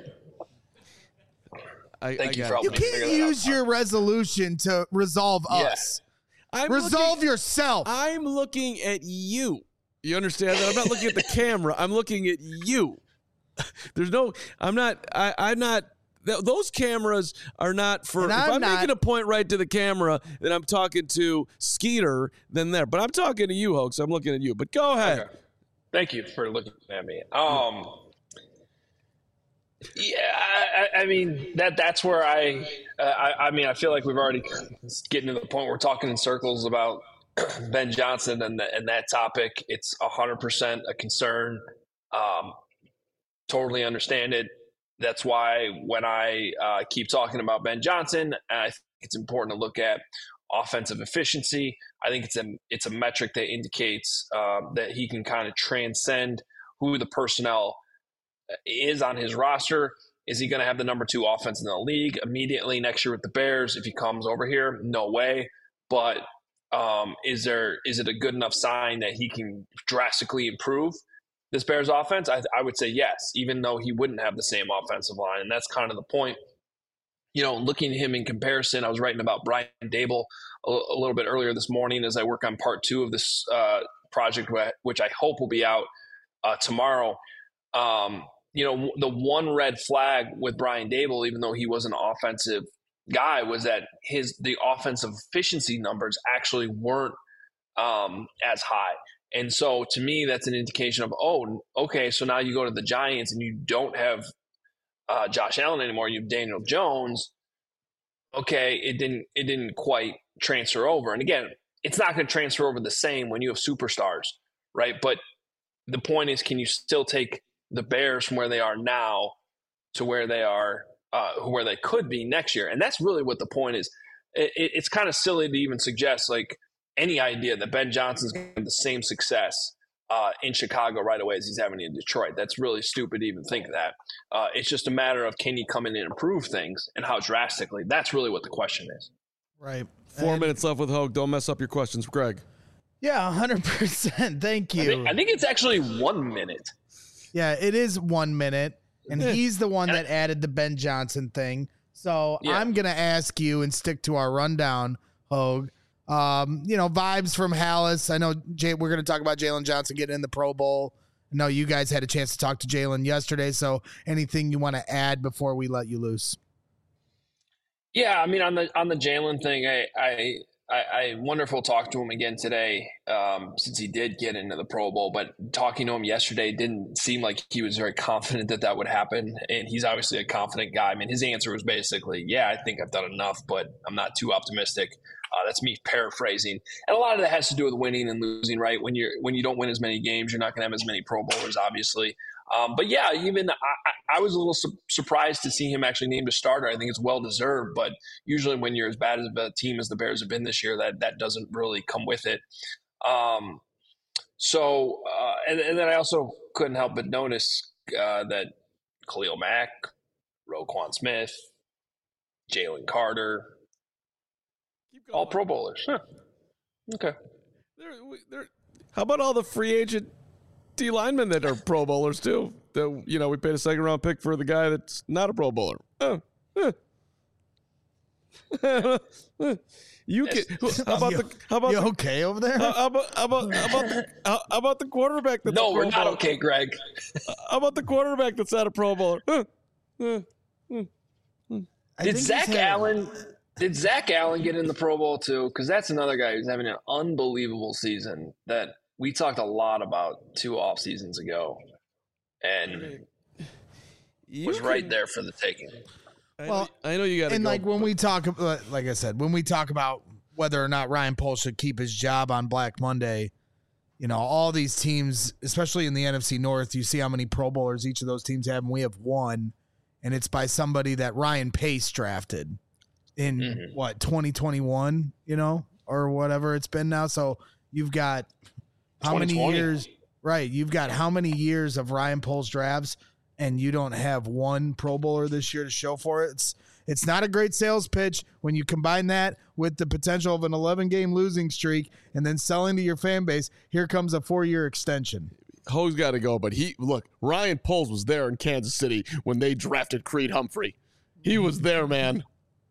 I, Thank I you got for it. helping You me figure can't that use out. your resolution to resolve Yeah. us. I'm Resolve looking, yourself. I'm looking at you. You understand that? I'm not looking at the camera. I'm looking at you. There's no, I'm not, I, I'm not, th- those cameras are not for, And if I'm I'm not- making a point right to the camera, then I'm talking to Skeeter, then there. But I'm talking to you, Hoax. I'm looking at you. But go ahead. Okay. Thank you for looking at me. Um, yeah, I, I mean that that's where I, uh, I I mean I feel like we've already getting to the point where we're talking in circles about Ben Johnson and the, and that topic. It's a hundred percent a concern. Um, totally understand it. That's why when I uh, keep talking about Ben Johnson, I think it's important to look at offensive efficiency. I think it's a it's a metric that indicates uh, that he can kind of transcend who the personnel is on his roster. Is he going to have the number two offense in the league immediately next year with the Bears if he comes over here? No way. But um, is there is it a good enough sign that he can drastically improve this Bears offense? I, I would say yes, even though he wouldn't have the same offensive line. And that's kind of the point. You know, looking at him in comparison, I was writing about Brian Dable a, a little bit earlier this morning as I work on part two of this uh, project, which I hope will be out uh, tomorrow. Um, you know, the one red flag with Brian Dable, even though he was an offensive guy, was that his the offensive efficiency numbers actually weren't um, as high. And so to me, that's an indication of, oh, okay, so now you go to the Giants and you don't have uh, Josh Allen anymore, you have Daniel Jones. Okay, it didn't it didn't quite transfer over. And again, it's not going to transfer over the same when you have superstars, right? But the point is, can you still take the Bears from where they are now to where they are, uh, where they could be next year? And that's really what the point is. It, it, it's kind of silly to even suggest like any idea that Ben Johnson's going to have the same success uh, in Chicago right away as he's having in Detroit. That's really stupid to even think that. Uh, it's just a matter of, can you come in and improve things and how drastically? That's really what the question is. Right. Four And- minutes left with Hogue. Don't mess up your questions, Greg. Yeah, one hundred percent. Thank you. I think, I think it's actually one minute. Yeah, it is one minute, and Yeah. he's the one that added the Ben Johnson thing. So Yeah. I'm gonna ask you and stick to our rundown, Hogue. Um, you know, vibes from Hallis. I know Jay, we're gonna talk about Jalen Johnson getting in the Pro Bowl. I know you guys had a chance to talk to Jalen yesterday. So anything you want to add before we let you loose? Yeah, I mean, on the on the Jalen thing, I I I, I wonder if we'll talk to him again today, um, since he did get into the Pro Bowl. But talking to him yesterday didn't seem like he was very confident that that would happen. And he's obviously a confident guy. I mean, his answer was basically, "Yeah, I think I've done enough, but I'm not too optimistic." Uh, that's me paraphrasing, and a lot of that has to do with winning and losing. Right, when you're when you don't win as many games, you're not going to have as many Pro Bowlers, obviously. Um, but yeah, even I, I was a little su- surprised to see him actually named a starter. I think it's well deserved, but usually when you're as bad as a team as the Bears have been this year, that that doesn't really come with it. Um, so, uh, and, and then I also couldn't help but notice uh, that Khalil Mack, Roquan Smith, Jalen Carter, all Pro Bowlers. Huh. Okay. They're, they're, how about all the free agent D linemen that are Pro Bowlers too? That, you know, we paid a second round pick for the guy that's not a Pro Bowler. Oh, eh. You can. How about the? How about you the, okay over there? How about how about how about the, how, how about the quarterback that's no, a Pro we're not Bowler? okay, Greg. How about the quarterback that's not a Pro Bowler? Huh. Huh. Huh. I Did think Zach he's had- Allen? Did Zach Allen get in the Pro Bowl too? Because that's another guy who's having an unbelievable season that we talked a lot about two off seasons ago, and You was can- right there for the taking. I Well, know, I know you got to And go, like when but- we talk, about- like I said, when we talk about whether or not Ryan Poles should keep his job on Black Monday, you know, all these teams, especially in the N F C North, you see how many Pro Bowlers each of those teams have, and we have one, and it's by somebody that Ryan Pace drafted in Mhm. what twenty twenty-one, you know, or whatever it's been now. So you've got how many twenty twenty. years, right? You've got how many years of Ryan Poles drafts, and you don't have one Pro Bowler this year to show for it. It's it's not a great sales pitch when you combine that with the potential of an eleven game losing streak and then selling to your fan base. Here comes a four year extension. Ho's got to go, but he look. Ryan Poles was there in Kansas City when they drafted Creed Humphrey. He was there, man.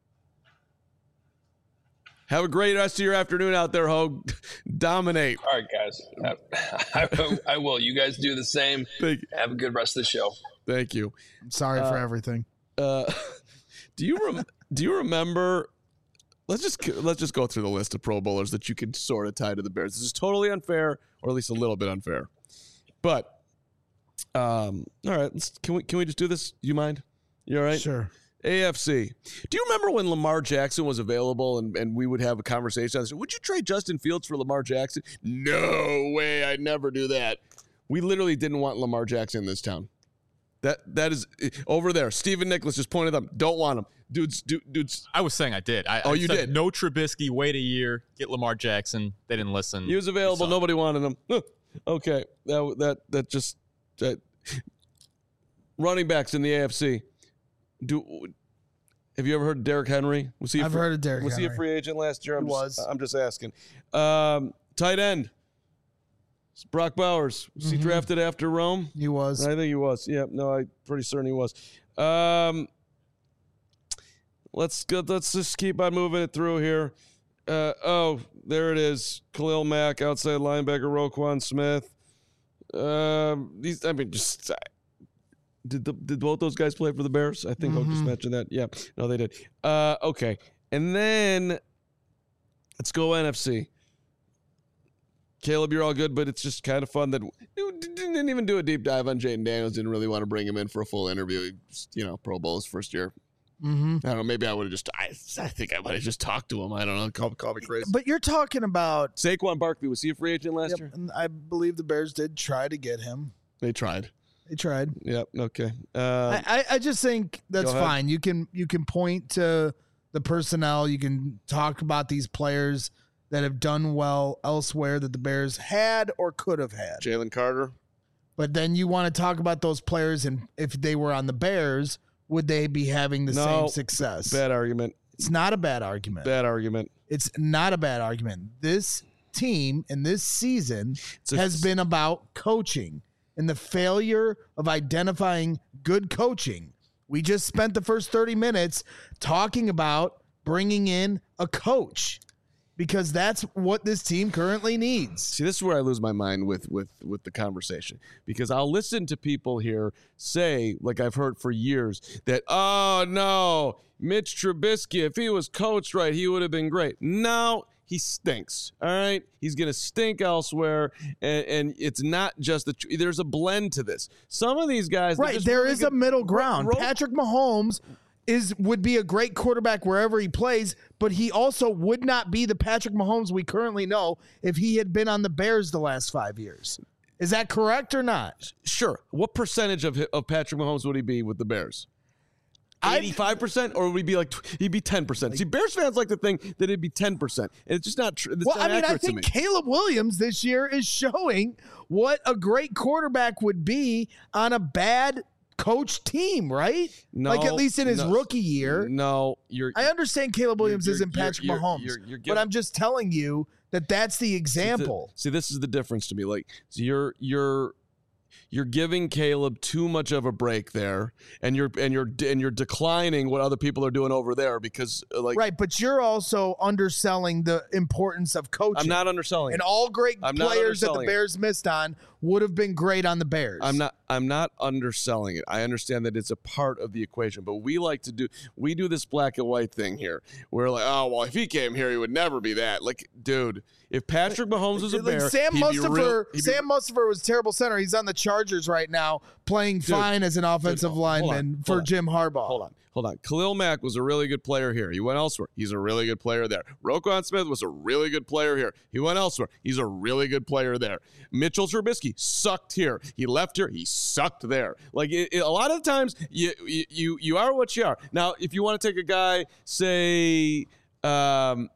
Have a great rest of your afternoon out there, Ho. Dominate. All right, guys. I, I, I will. You guys do the same. Thank, Have a good rest of the show. thank you. I'm sorry for everything. Uh, do you rem- do you remember? Let's just let's just go through the list of Pro Bowlers that you can sort of tie to the Bears. This is totally unfair, or at least a little bit unfair. But um, all right, let's, can we can we just do this? You mind? You all right? Sure. A F C. Do you remember when Lamar Jackson was available and, and we would have a conversation? Would you trade Justin Fields for Lamar Jackson? No way. I'd never do that. We literally didn't want Lamar Jackson in this town. That That is over there. Stephen Nicholas just pointed them. Don't want him. Dudes, dude, dudes. I was saying I did. I, Oh, I you said did? No Trubisky, wait a year, get Lamar Jackson. They didn't listen. He was available. Suck. Nobody wanted him. Huh. Okay. That, that, that just. That. Running backs in the A F C. Do. Have you ever heard of Derrick Henry? Was he? A I've free, heard of Derrick Was he a Henry. free agent last year? I'm He just, was. I'm just asking. Um, tight end. It's Brock Bowers. Was he Mhm. drafted after Rome? He was. I think he was. Yeah. No, I'm pretty certain he was. Um, let's go. Let's just keep on moving it through here. Uh, oh, there it is. Khalil Mack, outside linebacker, Roquan Smith. Um, these. I mean, just. Did the, did both those guys play for the Bears? I think I'll just Mhm. mention that. Yeah. No, they did. Uh, okay. And then let's go N F C. Caleb, you're all good, but it's just kind of fun that we didn't even do a deep dive on Jaden Daniels. Didn't really want to bring him in for a full interview. Just, you know, Pro Bowl his first year. Mm-hmm. I don't know. Maybe I would have just. I, I think I might have just talked to him. I don't know. Call, call me crazy. But you're talking about. Saquon Barkley, was he a free agent last Yep, year? and I believe the Bears did try to get him. They tried. They tried. Yep. Okay. Uh, I, I, I just think that's Go ahead. fine. You can you can point to the personnel. You can talk about these players that have done well elsewhere that the Bears had or could have had. Jalen Carter. But then you want to talk about those players, and if they were on the Bears, would they be having the No, same success? Bad argument. It's not a bad argument. Bad argument. It's not a bad argument. This team and this season It's a- has been about coaching and the failure of identifying good coaching. We just spent the first thirty minutes talking about bringing in a coach because that's what this team currently needs. See, this is where I lose my mind with with with the conversation, because I'll listen to people here say, like I've heard for years, that, oh no, Mitch Trubisky, if he was coached right, he would have been great. No, he stinks. All right, he's gonna stink elsewhere, and, and it's not just the. There's a blend to this. Some of these guys, they're Right, just there really is good- a middle ground. Ro- Patrick Mahomes is would be a great quarterback wherever he plays, but he also would not be the Patrick Mahomes we currently know if he had been on the Bears the last five years. Is that correct or not? Sure. What percentage of of Patrick Mahomes would he be with the Bears? eighty-five percent, or would he be like he'd be ten percent? See, Bears fans like to think that it'd be ten percent, and it's just not true. Well, I mean, I think Caleb Williams this year is showing what a great quarterback would be on a bad coach team, right? No, like at least in his no, rookie year. No, you're. I understand Caleb Williams you're, isn't Patrick you're, Mahomes, you're, you're, you're but I'm just telling you that that's the example. See, this is the difference to me. Like, so you're you're. You're giving Caleb too much of a break there, and you're and you're and you're declining what other people are doing over there because, like, right. But you're also underselling the importance of coaching. I'm not underselling. And all great I'm players that the it. Bears missed on would have been great on the Bears. I'm not. I'm not underselling it. I understand that it's a part of the equation, but we like to do. We do this black and white thing here. We're like, oh well, if he came here, he would never be that. Like, dude, if Patrick Mahomes was a like Bear, Sam he'd Mustipher, be real, he'd Sam be, Mustipher was a terrible center. He's on the Chargers right now, playing Dude, fine as an offensive dude, lineman on, for on, Jim Harbaugh. Hold on, hold on. Khalil Mack was a really good player here. He went elsewhere. He's a really good player there. Roquan Smith was a really good player here. He went elsewhere. He's a really good player there. Mitchell Trubisky sucked here. He left here. He sucked there. Like it, it, a lot of times, you you you are what you are. Now, if you want to take a guy, say. Um,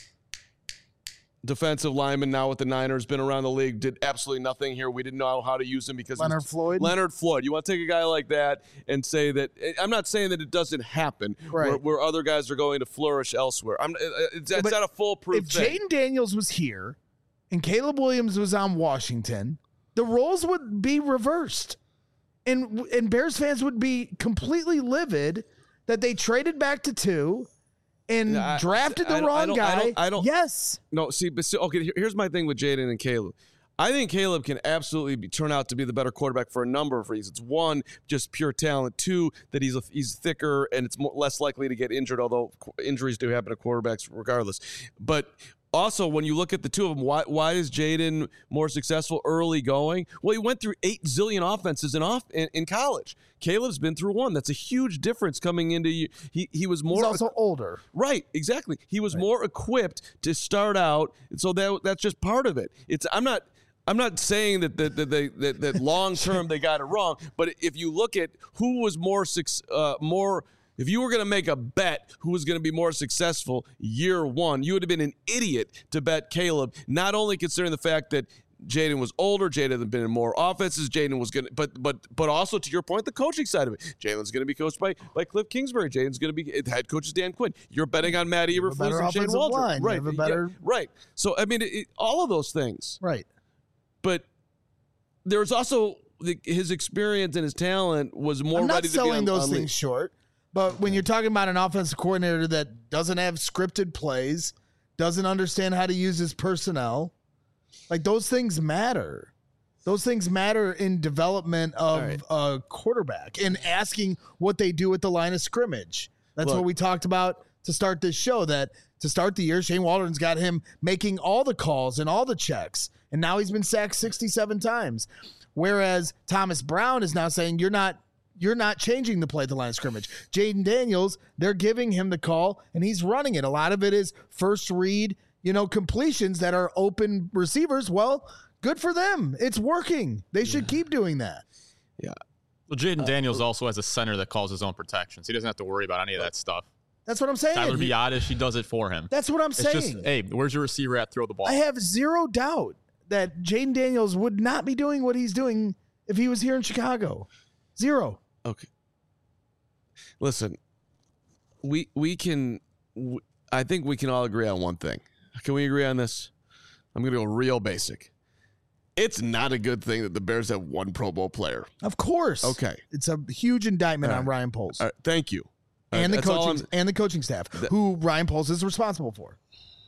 defensive lineman now with the Niners, been around the league, did absolutely nothing here. We didn't know how to use him because Leonard Floyd. Leonard Floyd. You want to take a guy like that and say that I'm not saying that it doesn't happen right. where, where other guys are going to flourish elsewhere. I'm it's, it's not a foolproof if thing. If Jaden Daniels was here and Caleb Williams was on Washington, the roles would be reversed. And and Bears fans would be completely livid that they traded back to two and I, drafted the I, wrong I don't, guy. I don't, I don't, yes. No, see, but still, okay, here's my thing with Jaden and Caleb. I think Caleb can absolutely be, turn out to be the better quarterback for a number of reasons. One, just pure talent. Two, that he's a, he's thicker and it's more, less likely to get injured, although injuries do happen to quarterbacks regardless. But also, when you look at the two of them, why why is Jaden more successful early going? Well, he went through eight zillion offenses in off in, in college. Caleb's been through one. That's a huge difference coming into you. He he was more He's also older. Right, exactly. He was right. more equipped to start out, and so that that's just part of it. It's I'm not. I'm not saying that that that, they, that, that long term they got it wrong, but if you look at who was more uh, more. If you were going to make a bet who was going to be more successful year one, you would have been an idiot to bet Caleb, not only considering the fact that Jaden was older, Jaden had been in more offenses, Jaden was going to, but but but also to your point, the coaching side of it. Jaden's going to be coached by, by Cliff Kingsbury. Jaden's going to be, head coach is Dan Quinn. You're betting on Matt Eberflus and Shane Waldron. Line. Right. You have a better... yeah, right. So, I mean, it, it, all of those things. Right. But there's also the, his experience and his talent was more I'm not ready to be selling on, those on things league. short. But when you're talking about an offensive coordinator that doesn't have scripted plays, doesn't understand how to use his personnel, like those things matter. Those things matter in development of right. a quarterback and asking what they do at the line of scrimmage. That's Look, what we talked about to start this show, that to start the year, Shane Waldron's got him making all the calls and all the checks. And now he's been sacked sixty-seven times. Whereas Thomas Brown is now saying, you're not You're not changing the play at the line of scrimmage. Jaden Daniels, they're giving him the call, and he's running it. A lot of it is first read, you know, completions that are open receivers. Well, good for them. It's working. They should yeah. keep doing that. Yeah. Well, Jaden uh, Daniels also has a center that calls his own protections. He doesn't have to worry about any of that stuff. That's what I'm saying. Tyler Biadasz, he does it for him. That's what I'm it's saying. Just, hey, where's your receiver at? Throw the ball. I have zero doubt that Jaden Daniels would not be doing what he's doing if he was here in Chicago. Zero. Okay. Listen, we we can. We, I think we can all agree on one thing. Can we agree on this? I'm going to go real basic. It's not a good thing that the Bears have one Pro Bowl player. Of course. Okay. It's a huge indictment right. on Ryan Poles. Right. Thank you. And right. the coaching and the coaching staff, that, who Ryan Poles is responsible for.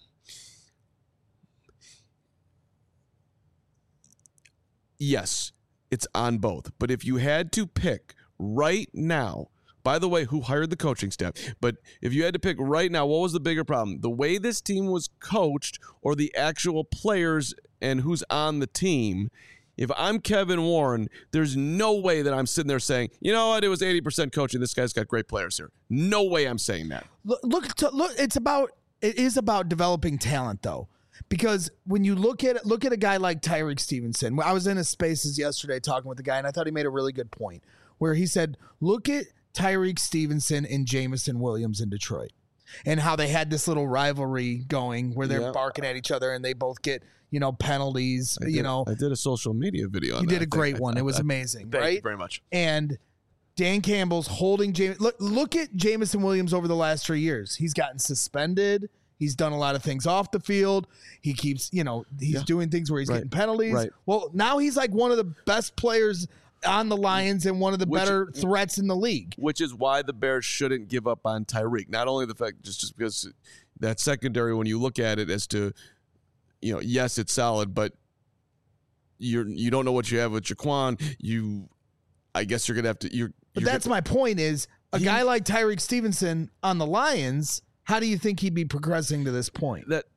Yes, it's on both. But if you had to pick right now, by the way, who hired the coaching staff, but if you had to pick right now, what was the bigger problem? The way this team was coached or the actual players and who's on the team? If I'm Kevin Warren, there's no way that I'm sitting there saying, you know what, it was eighty percent coaching. This guy's got great players here. No way I'm saying that. Look, look, to, look it's about it is about developing talent though. Because when you look at look at a guy like Tyreek Stevenson, I was in his spaces yesterday talking with a guy, and I thought he made a really good point where he said, look at Tyreek Stevenson and Jameson Williams in Detroit and how they had this little rivalry going where they're yeah. barking at each other and they both get, you know, penalties. I did, you know, I did a social media video on you that. did a great one. It was amazing, Thank right? you very much. And Dan Campbell's holding James. Look, look at Jameson Williams over the last three years. He's gotten suspended. He's done a lot of things off the field. He keeps, you know, he's Yeah. doing things where he's Right. getting penalties. Right. Well, now he's like one of the best players on the Lions and one of the Which- better threats in the league. Which is why the Bears shouldn't give up on Tyreek. Not only the fact, just, just because that secondary, when you look at it as to, you know, yes, it's solid, but you're, you don't know what you have with Jaquan. You, I guess you're going to have to, you're, But you're that's gonna, my point is a He- guy like Tyreek Stevenson on the Lions, how do you think he'd be progressing to this point? that,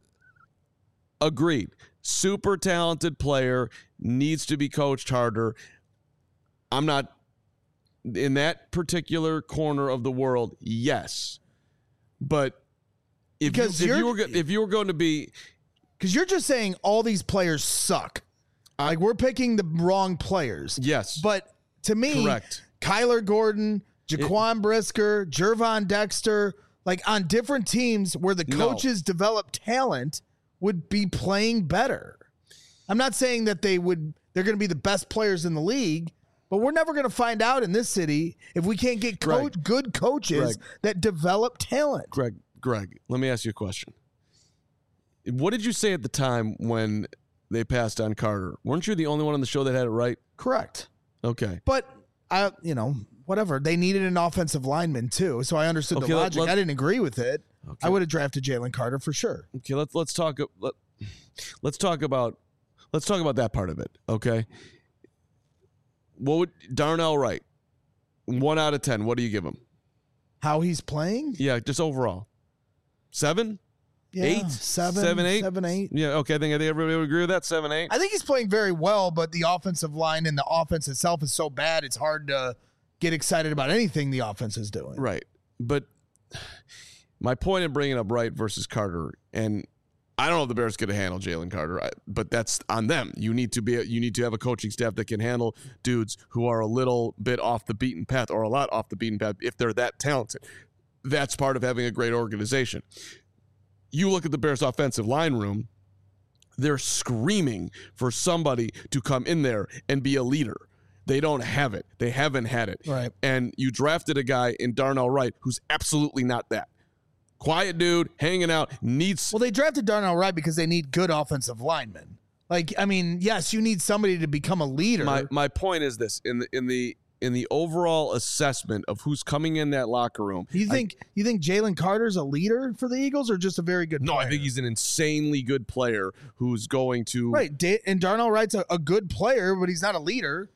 agreed. Super talented player, needs to be coached harder. I'm not in that particular corner of the world. Yes, but if Because you, if you're- you were go- if you were going to be, Because you're just saying all these players suck. Like we're picking the wrong players. yes, But to me, correct. Kyler Gordon, Jaquan Brisker, Jervon Dexter, like on different teams where the No. coaches develop talent would be playing better. I'm not saying that they would, they're going to be the best players in the league, but we're never going to find out in this city if we can't get coach, Greg. good coaches Greg. that develop talent. Greg, Greg, let me ask you a question. What did you say at the time when they passed on Carter? Weren't you the only one on the show that had it right? Correct. Okay. But I, you know, whatever. They needed an offensive lineman too, so I understood Okay, the let- logic. let- I didn't agree with it. Okay. I would have drafted Jalen Carter for sure. Okay, let's let's talk let, let's talk about let's talk about that part of it, okay? What would Darnell Wright? one out of ten, what do you give him? How he's playing? Yeah, just overall. seven? Yeah, Eight? seven, Seven, eight? seven, eight. Yeah, okay, I think I think everybody would agree with that. seven, eight. I think he's playing very well, but the offensive line and the offense itself is so bad, it's hard to get excited about anything the offense is doing. Right. But my point in bringing up Wright versus Carter, and I don't know if the Bears could have handled Jalen Carter, I, but that's on them. You need to be you need to have a coaching staff that can handle dudes who are a little bit off the beaten path or a lot off the beaten path if they're that talented. That's part of having a great organization. You look at the Bears' offensive line room, they're screaming for somebody to come in there and be a leader. They don't have it. They haven't had it. Right. And you drafted a guy in Darnell Wright who's absolutely not that. Quiet dude, hanging out, needs... Well, they drafted Darnell Wright because they need good offensive linemen. Like, I mean, yes, you need somebody to become a leader. My my point is this: in the in the in the overall assessment of who's coming in that locker room, you I- think you think Jalen Carter's a leader for the Eagles or just a very good no, player? I think he's an insanely good player who's going to Right. Da- and Darnell Wright's a, a good player, but he's not a leader.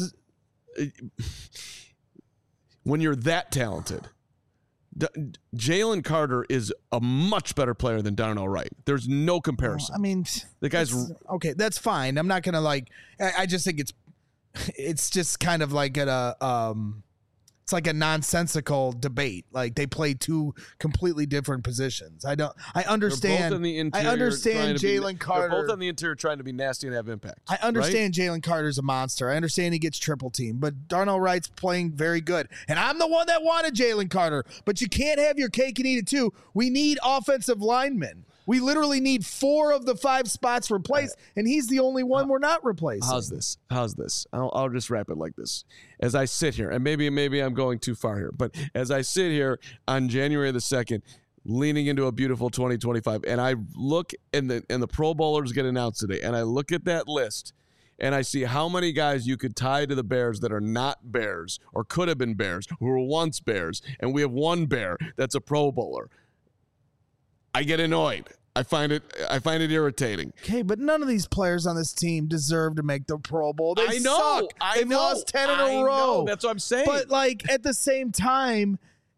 when you're that talented. D- Jalen Carter is a much better player than Darnell Wright. There's no comparison. I mean, The guy's- that's- okay. That's fine. I'm not gonna like. I, I just think it's it's just kind of like a um, it's like a nonsensical debate. Like they play two completely different positions. I don't. I They're understand. both in the interior I trying understand to be- Jalen Carter. They're both on the interior trying to be nasty and have impact. I understand Jalen Carter's a monster. I understand he gets triple teamed, but Darnell Wright's playing very good. And I'm the one that wanted Jalen Carter, but you can't have your cake and eat it too. We need offensive linemen. We literally need four of the five spots replaced, and he's the only one we're not replacing. How's this? How's this? I'll, I'll just wrap it like this. As I sit here, and maybe maybe I'm going too far here, but as I sit here on January the second, leaning into a beautiful twenty twenty-five, and I look and the and the Pro Bowlers get announced today, and I look at that list, and I see how many guys you could tie to the Bears that are not Bears or could have been Bears, who were once Bears, and we have one Bear that's a Pro Bowler. I get annoyed. I find it I find it irritating. Okay, but none of these players on this team deserve to make the Pro Bowl. They I know. suck. I They've know. lost ten in I a row. know. That's what I'm saying. But like at the same time,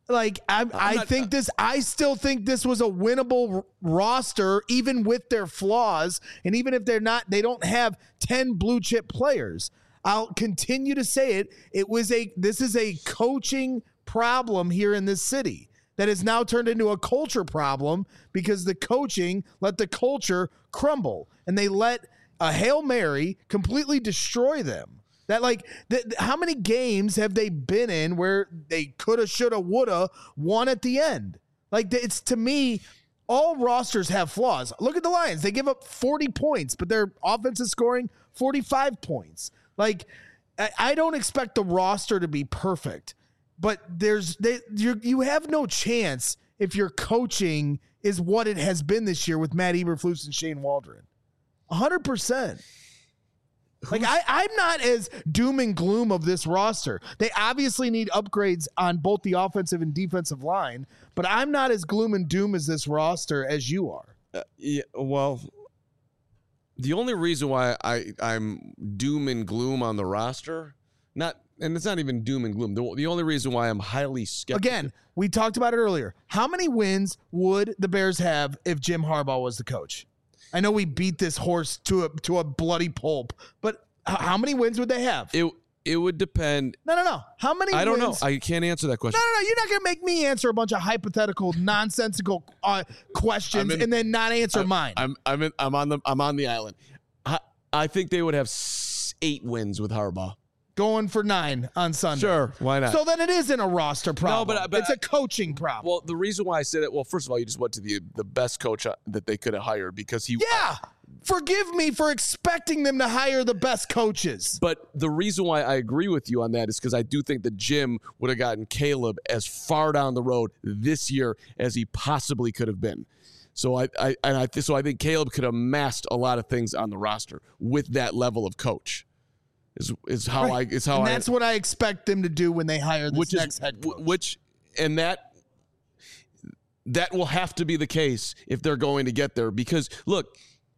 Like I, I not- think this. I still think this was a winnable r- roster, even with their flaws, and even if they're not, they don't have ten blue chip players. I'll continue to say it. It was a. This is a coaching problem here in this city that has now turned into a culture problem because the coaching let the culture crumble, and they let a Hail Mary completely destroy them. That like, th- th- how many games have they been in where they coulda, shoulda, woulda won at the end? Like, th- it's to me, all rosters have flaws. Look at the Lions; they give up forty points, but their offense is scoring forty-five points. Like, I, I don't expect the roster to be perfect, but there's they you you have no chance if your coaching is what it has been this year with Matt Eberflus and Shane Waldron. A hundred percent. Like I, I'm not as doom and gloom of this roster. They obviously need upgrades on both the offensive and defensive line, but I'm not as gloom and doom as this roster as you are. Uh, yeah, well, the only reason why I, I'm doom and gloom on the roster, not, and it's not even doom and gloom. The, the only reason why I'm highly skeptical. Again, we talked about it earlier. How many wins would the Bears have if Jim Harbaugh was the coach? I know we beat this horse to a to a bloody pulp, but h- how many wins would they have? it it would depend. No, no, no. How many I don't wins? know. I can't answer that No, question. no, no. You're not going to make me answer a bunch of hypothetical, nonsensical uh, questions I'm in- and then not answer I'm, mine. I'm I'm in, I'm on the I'm on the island. I, I think they would have s- eight wins with Harbaugh. Going for nine on Sunday. Sure, why not? So then it isn't a roster problem. but- but it's a coaching problem. Well, the reason why I say that, well, first of all, you just went to the the best coach uh, that they could have hired because he. yeah. Forgive me for expecting them to hire the best coaches. But the reason why I agree with you on that is because I do think that Jim would have gotten Caleb as far down the road this year as he possibly could have been. So I, I and I so I think Caleb could have masked a lot of things on the roster with that level of coach. Is is how Right. I is how and I that's what I expect them to do when they hire this which next is head coach. which and that that will have to be the case if they're going to get there because look,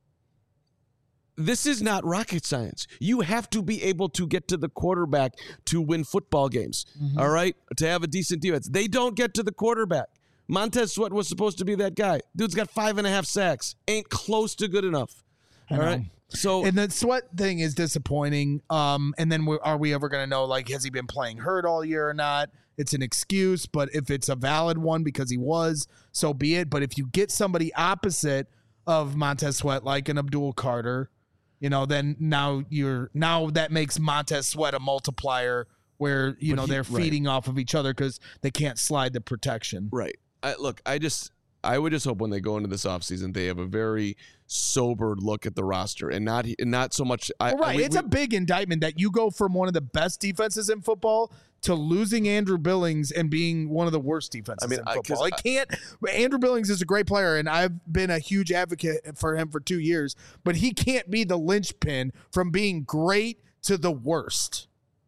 this is not rocket science. You have to be able to get to the quarterback to win football games. Mm-hmm. All right, to have a decent defense. They don't get to the quarterback. Montez Sweat was supposed to be that guy. Dude's got five and a half sacks. Ain't close to good enough. All know. right. So And the Sweat thing is disappointing. Um, and then we, are we ever going to know, like, has he been playing hurt all year or not? It's an excuse, but if it's a valid one because he was, so be it. But if you get somebody opposite of Montez Sweat, like an Abdul Carter, you know, then now you're now that makes Montez Sweat a multiplier where, you But know, he- they're right. feeding off of each other because they can't slide the protection. right. I, look, I just I would just hope when they go into this offseason they have a very sober look at the roster and not and not so much. I, Well, right. I, we- it's we- a big indictment that you go from one of the best defenses in football to losing Andrew Billings and being one of the worst defenses I mean, in I- 'cause football. I I- can't. Andrew Billings is a great player, and I've been a huge advocate for him for two years, but he can't be the linchpin from being great to the worst.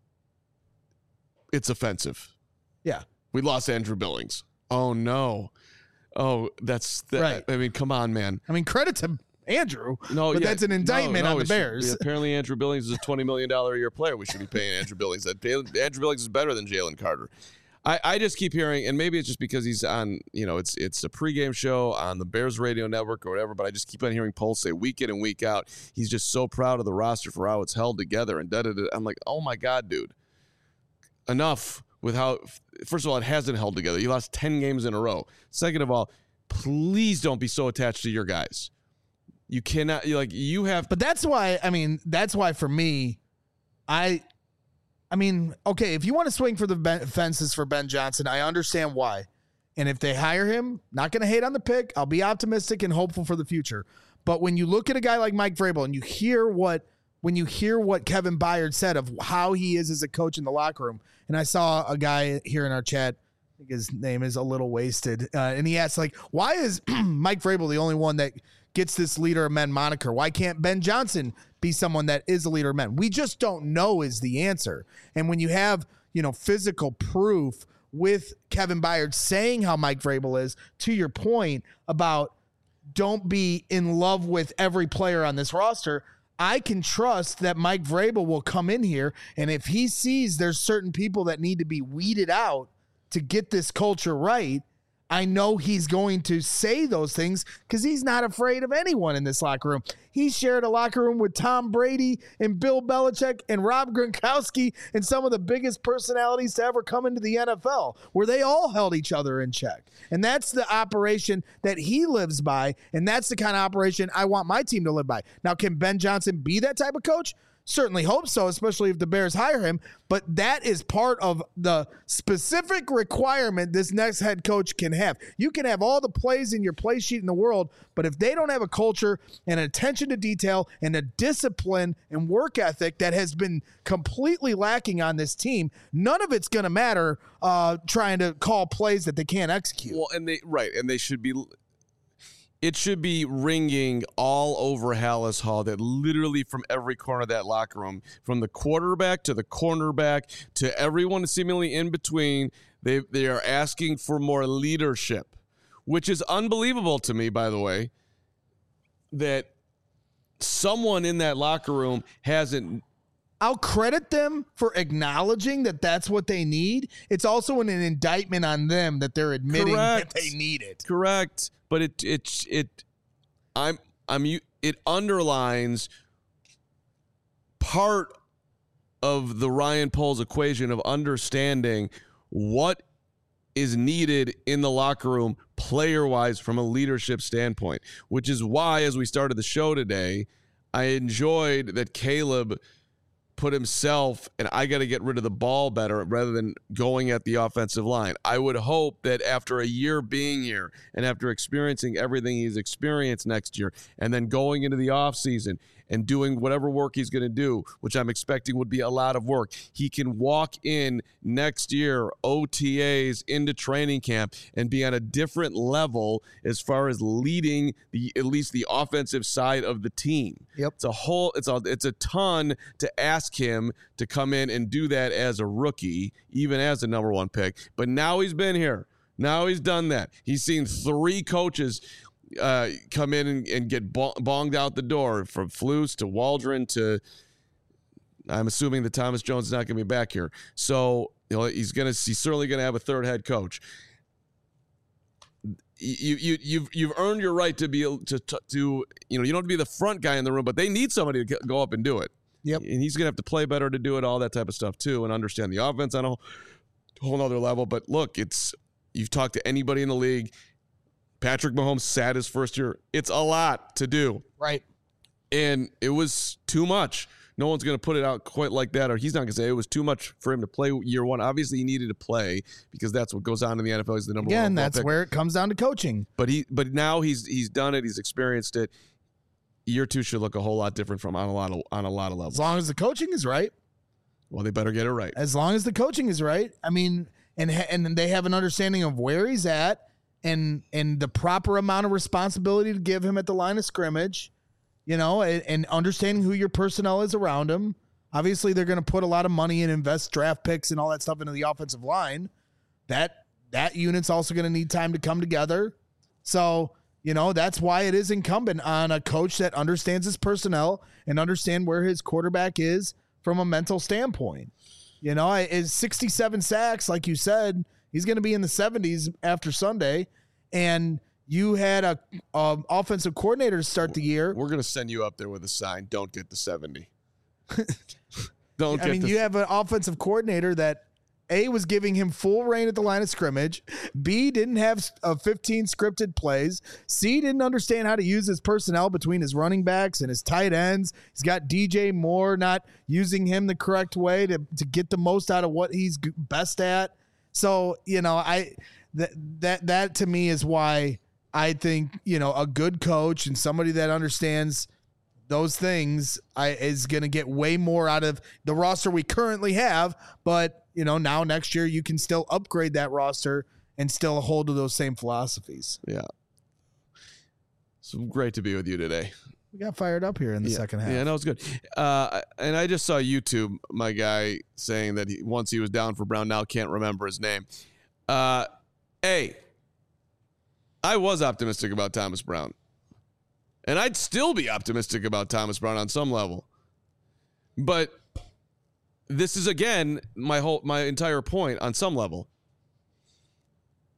it's offensive. Yeah. We lost Andrew Billings. Oh no. Oh, that's that, Right. I mean, come on, man. I mean, credit to Andrew, No, but yeah, that's an indictment no, no, on the we should- Bears. apparently, Andrew Billings is a twenty million dollars a year player. We should be paying Andrew Billings. That Andrew Billings is better than Jalen Carter. I, I just keep hearing, and maybe it's just because he's on, you know, it's it's a pregame show on the Bears radio network or whatever, but I just keep on hearing Poles say week in and week out, he's just so proud of the roster for how it's held together. And da da da. I'm like, oh my God, dude. Enough with how, first of all, it hasn't held together. You lost ten games in a row. Second of all, please don't be so attached to your guys. You cannot, you like, you have, But that's why, I mean, that's why for me, I, I mean, okay, if you want to swing for the ben- fences for Ben Johnson, I understand why. And if they hire him, not going to hate on the pick. I'll be optimistic and hopeful for the future. But when you look at a guy like Mike Vrabel and you hear what, when you hear what Kevin Byard said of how he is as a coach in the locker room, and I saw a guy here in our chat, I think his name is a little wasted, uh, and he asked, like, why is Mike Vrabel the only one that gets this leader of men moniker? Why can't Ben Johnson be someone that is a leader of men? We just don't know is the answer. And when you have, you know, physical proof with Kevin Byard saying how Mike Vrabel is, to your point about don't be in love with every player on this roster, I can trust that Mike Vrabel will come in here, and if he sees there's certain people that need to be weeded out to get this culture right, I know he's going to say those things because he's not afraid of anyone in this locker room. He shared a locker room with Tom Brady and Bill Belichick and Rob Gronkowski and some of the biggest personalities to ever come into the N F L, where they all held each other in check. And that's the operation that he lives by, and that's the kind of operation I want my team to live by. Now, can Ben Johnson be that type of coach? Certainly hope so, especially if the Bears hire him. But that is part of the specific requirement this next head coach can have. You can have all the plays in your play sheet in the world, but if they don't have a culture and attention to detail and a discipline and work ethic that has been completely lacking on this team, none of it's going to matter uh, trying to call plays that they can't execute. Well, and they right, and they should be. It should be ringing all over Hallis Hall that literally from every corner of that locker room, from the quarterback to the cornerback to everyone seemingly in between, they they are asking for more leadership, which is unbelievable to me, by the way, that someone in that locker room hasn't. I'll credit them for acknowledging that that's what they need. It's also an, an indictment on them that they're admitting Correct. that they need it. Correct. But it it it I'm I'm it underlines part of the Ryan Poles equation of understanding what is needed in the locker room player-wise from a leadership standpoint, which is why, as we started the show today, I enjoyed that Caleb put himself, and I got to get rid of the ball better rather than going at the offensive line. I would hope that after a year being here and after experiencing everything he's experienced next year and then going into the offseason and doing whatever work he's going to do, which I'm expecting would be a lot of work, he can walk in next year, O T As, into training camp and be on a different level as far as leading the at least the offensive side of the team. Yep. It's a whole it's a it's a ton to ask him to come in and do that as a rookie, even as a number one pick. But now he's been here. Now he's done that. He's seen three coaches uh, come in and, and get bonged out the door, from Flus to Waldron to, I'm assuming that Thomas Jones is not going to be back here. So, you know, he's going to he's certainly going to have a third head coach. You you you've you've earned your right to be to to you know, you don't have to be the front guy in the room, but they need somebody to go up and do it. Yep. And he's gonna have to play better to do it, all that type of stuff too, and understand the offense on a whole, whole other level. But look, it's you've talked to anybody in the league. Patrick Mahomes sat his first year. It's a lot to do, right? And it was too much. No one's going to put it out quite like that, or he's not going to say it was too much for him to play year one. Obviously, he needed to play because that's what goes on in the N F L. He's the number Again, one. Again, that's pick. where it comes down to coaching. But he, but now he's he's done it. He's experienced it. Year two should look a whole lot different from on a lot of on a lot of levels. As long as the coaching is right. Well, they better get it right. As long as the coaching is right. I mean, and and they have an understanding of where he's at and and the proper amount of responsibility to give him at the line of scrimmage, you know, and, and understanding who your personnel is around him. Obviously, they're going to put a lot of money and invest draft picks and all that stuff into the offensive line. That that unit's also going to need time to come together. So, you know, that's why it is incumbent on a coach that understands his personnel and understand where his quarterback is from a mental standpoint. You know, is sixty-seven sacks, like you said, he's going to be in the seventies after Sunday. And you had a, a offensive coordinator to start the year. We're going to send you up there with a sign. Don't get the seventy. Don't I get mean, the you have an offensive coordinator that A, was giving him full reign at the line of scrimmage. B, didn't have uh, fifteen scripted plays. C, didn't understand how to use his personnel between his running backs and his tight ends. He's got D J Moore not using him the correct way to, to get the most out of what he's best at. So, you know, I that that that to me is why I think, you know, a good coach and somebody that understands those things I, is going to get way more out of the roster we currently have. But, you know, now next year you can still upgrade that roster and still hold to those same philosophies. Yeah. So great to be with you today. We got fired up here in the yeah. second half. Yeah, no, it's good. Uh, and I just saw YouTube, my guy saying that he, once he was down for Brown, now can't remember his name. Uh, hey, I was optimistic about Thomas Brown. And I'd still be optimistic about Thomas Brown on some level. But this is, again, my whole my entire point on some level.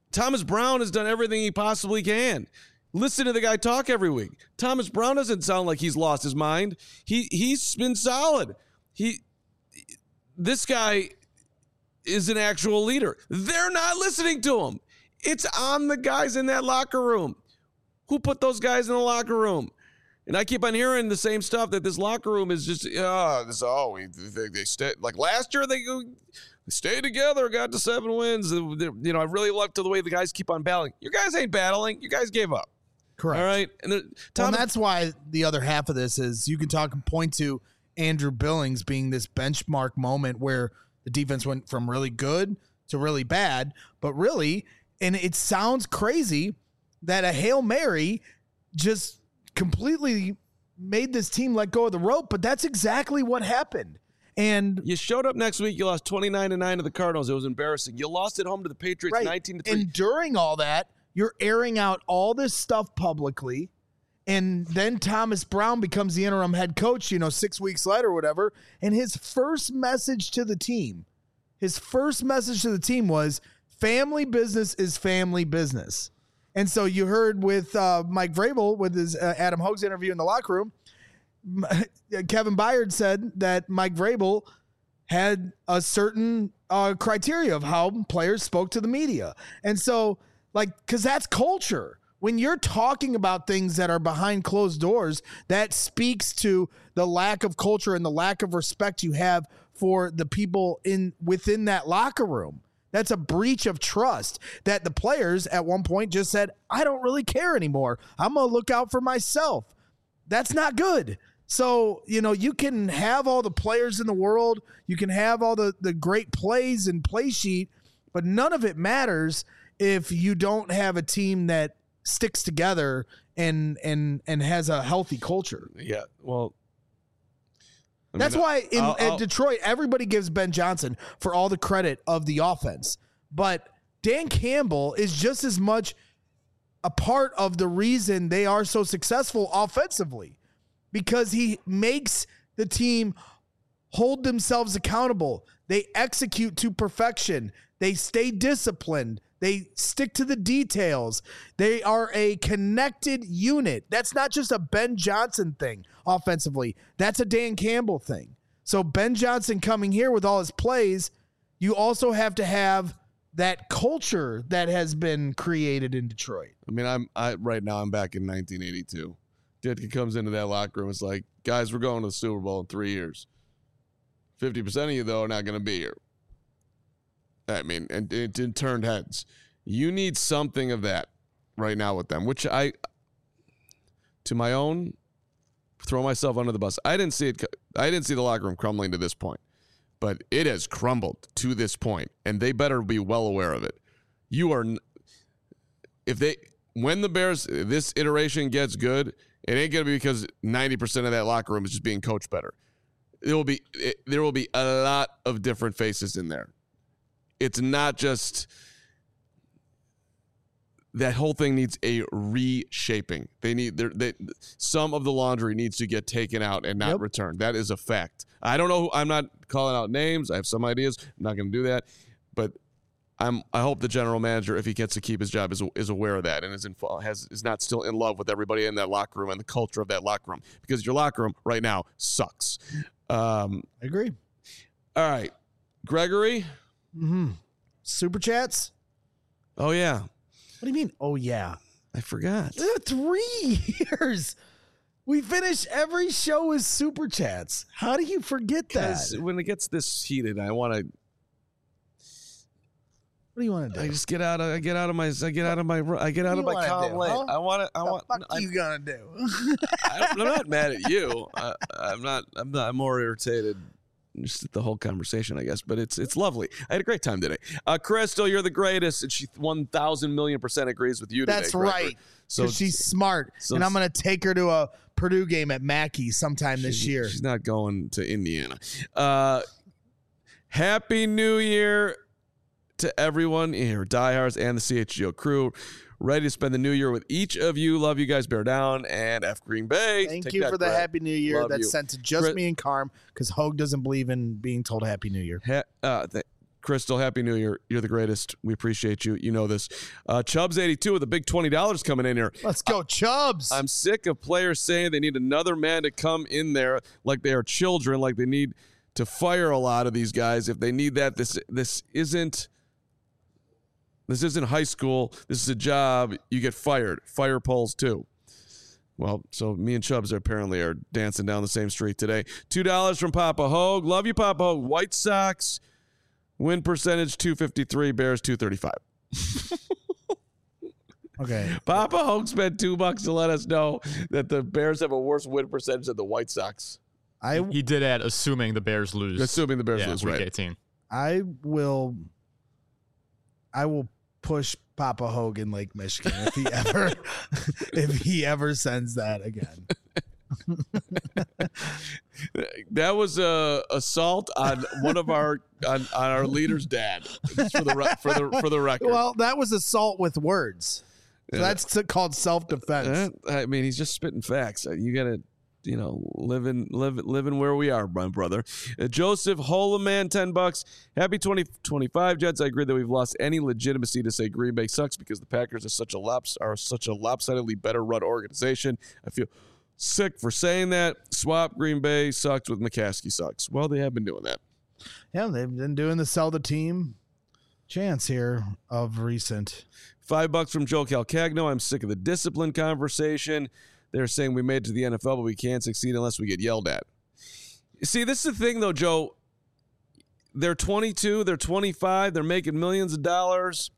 Thomas Brown has done everything he possibly can. Listen to the guy talk every week. Thomas Brown doesn't sound like he's lost his mind. He he's been solid. He this guy is an actual leader. They're not listening to him. It's on the guys in that locker room. Who put those guys in the locker room? And I keep on hearing the same stuff that this locker room is just, oh, this, oh, we, they, they stay, like last year they, they stayed together, got to seven wins. You know, I really love to the way the guys keep on battling. You guys ain't battling. You guys gave up. Correct. All right. And the, Tom, well, and that's why the other half of this is you can talk and point to Andrew Billings being this benchmark moment where the defense went from really good to really bad, but really, and it sounds crazy that a Hail Mary just completely made this team let go of the rope, but that's exactly what happened. And you showed up next week, you lost twenty-nine to nine to the Cardinals. It was embarrassing. You lost at home to the Patriots right. nineteen to three. And during all that, you're airing out all this stuff publicly. And then Thomas Brown becomes the interim head coach, you know, six weeks later or whatever. And his first message to the team, his first message to the team was family business is family business. And so you heard with uh, Mike Vrabel with his uh, Adam Hogue's interview in the locker room, Kevin Byard said that Mike Vrabel had a certain uh, criteria of how players spoke to the media. And so, like, because that's culture. When you're talking about things that are behind closed doors, that speaks to the lack of culture and the lack of respect you have for the people in within that locker room. That's a breach of trust that the players at one point just said, I don't really care anymore. I'm going to look out for myself. That's not good. So, you know, you can have all the players in the world. You can have all the, the great plays and play sheet, but none of it matters if you don't have a team that sticks together and and and has a healthy culture. Yeah, well, I that's mean, why in I'll, I'll, at Detroit, everybody gives Ben Johnson for all the credit of the offense. But Dan Campbell is just as much a part of the reason they are so successful offensively, because he makes the team hold themselves accountable. They execute to perfection. They stay disciplined. They stick to the details. They are a connected unit. That's not just a Ben Johnson thing offensively. That's a Dan Campbell thing. So Ben Johnson coming here with all his plays, you also have to have that culture that has been created in Detroit. I mean, I'm I right now I'm back in nineteen eighty-two. Ditka comes into that locker room. It's like, guys, we're going to the Super Bowl in three years. fifty percent of you, though, are not going to be here. I mean, and it, it turned heads. You need something of that right now with them, which I, to my own, throw myself under the bus. I didn't see it. I didn't see the locker room crumbling to this point, but it has crumbled to this point, and they better be well aware of it. You are, if they, when the Bears, this iteration gets good, it ain't going to be because ninety percent of that locker room is just being coached better. There will be, it, there will be a lot of different faces in there. It's not just that whole thing needs a reshaping. They need they, some of the laundry needs to get taken out and not yep. returned. That is a fact. I don't know. Who, I'm not calling out names. I have some ideas. I'm not going to do that. But I'm. I hope the general manager, if he gets to keep his job, is is aware of that and is in, has is not still in love with everybody in that locker room and the culture of that locker room, because your locker room right now sucks. Um, I agree. All right, Gregory. Mm-hmm. Super chats? Oh, yeah. What do you mean, oh, yeah? I forgot. Three years. We finish every show with super chats. How do you forget that? When it gets this heated, I want to. What do you want to do? I just get out of. I get out of my. I get out of my. I get out of my calm lane. Huh? I want to. I want. What the fuck I, you gonna do? I, I'm not mad at you. I, I'm not. I'm not. I'm more irritated. Just at the whole conversation, I guess, but it's it's lovely. I had a great time today. Uh, Crystal, you're the greatest, and she one thousand million percent agrees with you today. That's right. So she's smart, so, and I'm going to take her to a Purdue game at Mackey sometime this year. She's not going to Indiana. Uh, Happy New Year to everyone here, diehards and the C H G O crew. Ready to spend the new year with each of you. Love you guys. Bear down and F Green Bay. Thank Take you that, for the Brett. Happy New Year. Love That's you. sent to just Chris, me and Carm, because Hogue doesn't believe in being told Happy New Year. Ha, uh, th- Crystal, Happy New Year. You're the greatest. We appreciate you. You know this. Uh, Chubbs eighty-two with a big twenty dollars coming in here. Let's go, Chubbs. I'm sick of players saying they need another man to come in there like they are children, like they need to fire a lot of these guys. If they need that, this this isn't this isn't high school. This is a job. You get fired. Fire polls too. Well, so me and Chubbs are apparently are dancing down the same street today. two dollars from Papa Hogue. Love you, Papa Hogue. White Sox, win percentage two fifty-three, Bears two thirty-five. Okay. Papa Hogue spent two bucks to let us know that the Bears have a worse win percentage than the White Sox. I He did add, assuming the Bears lose. Assuming the Bears yeah, lose, week right? eighteen. I will I will push Papa Hogue in Lake Michigan if he ever if he ever sends that again. That was a assault on one of our on, on our leader's dad. Just for the re- for the for the record. Well, that was assault with words. So Yeah. that's called self-defense. Uh, I mean, he's just spitting facts. Uh, You gotta, you know, living live living where we are, my brother. Uh, Joseph Holoman, ten bucks. Happy twenty twenty-five, Jets. I agree that we've lost any legitimacy to say Green Bay sucks because the Packers are such a lops are such a lopsidedly better run organization. I feel sick for saying that. Swap Green Bay sucks with McCaskey sucks. Well, they have been doing that. Yeah, they've been doing the sell the team chance here of recent. Five bucks from Joe Calcagno. I'm sick of the discipline conversation. They're saying we made it to the N F L, but we can't succeed unless we get yelled at. See, this is the thing, though, Joe. They're twenty-two. They're twenty-five. They're making millions of dollars.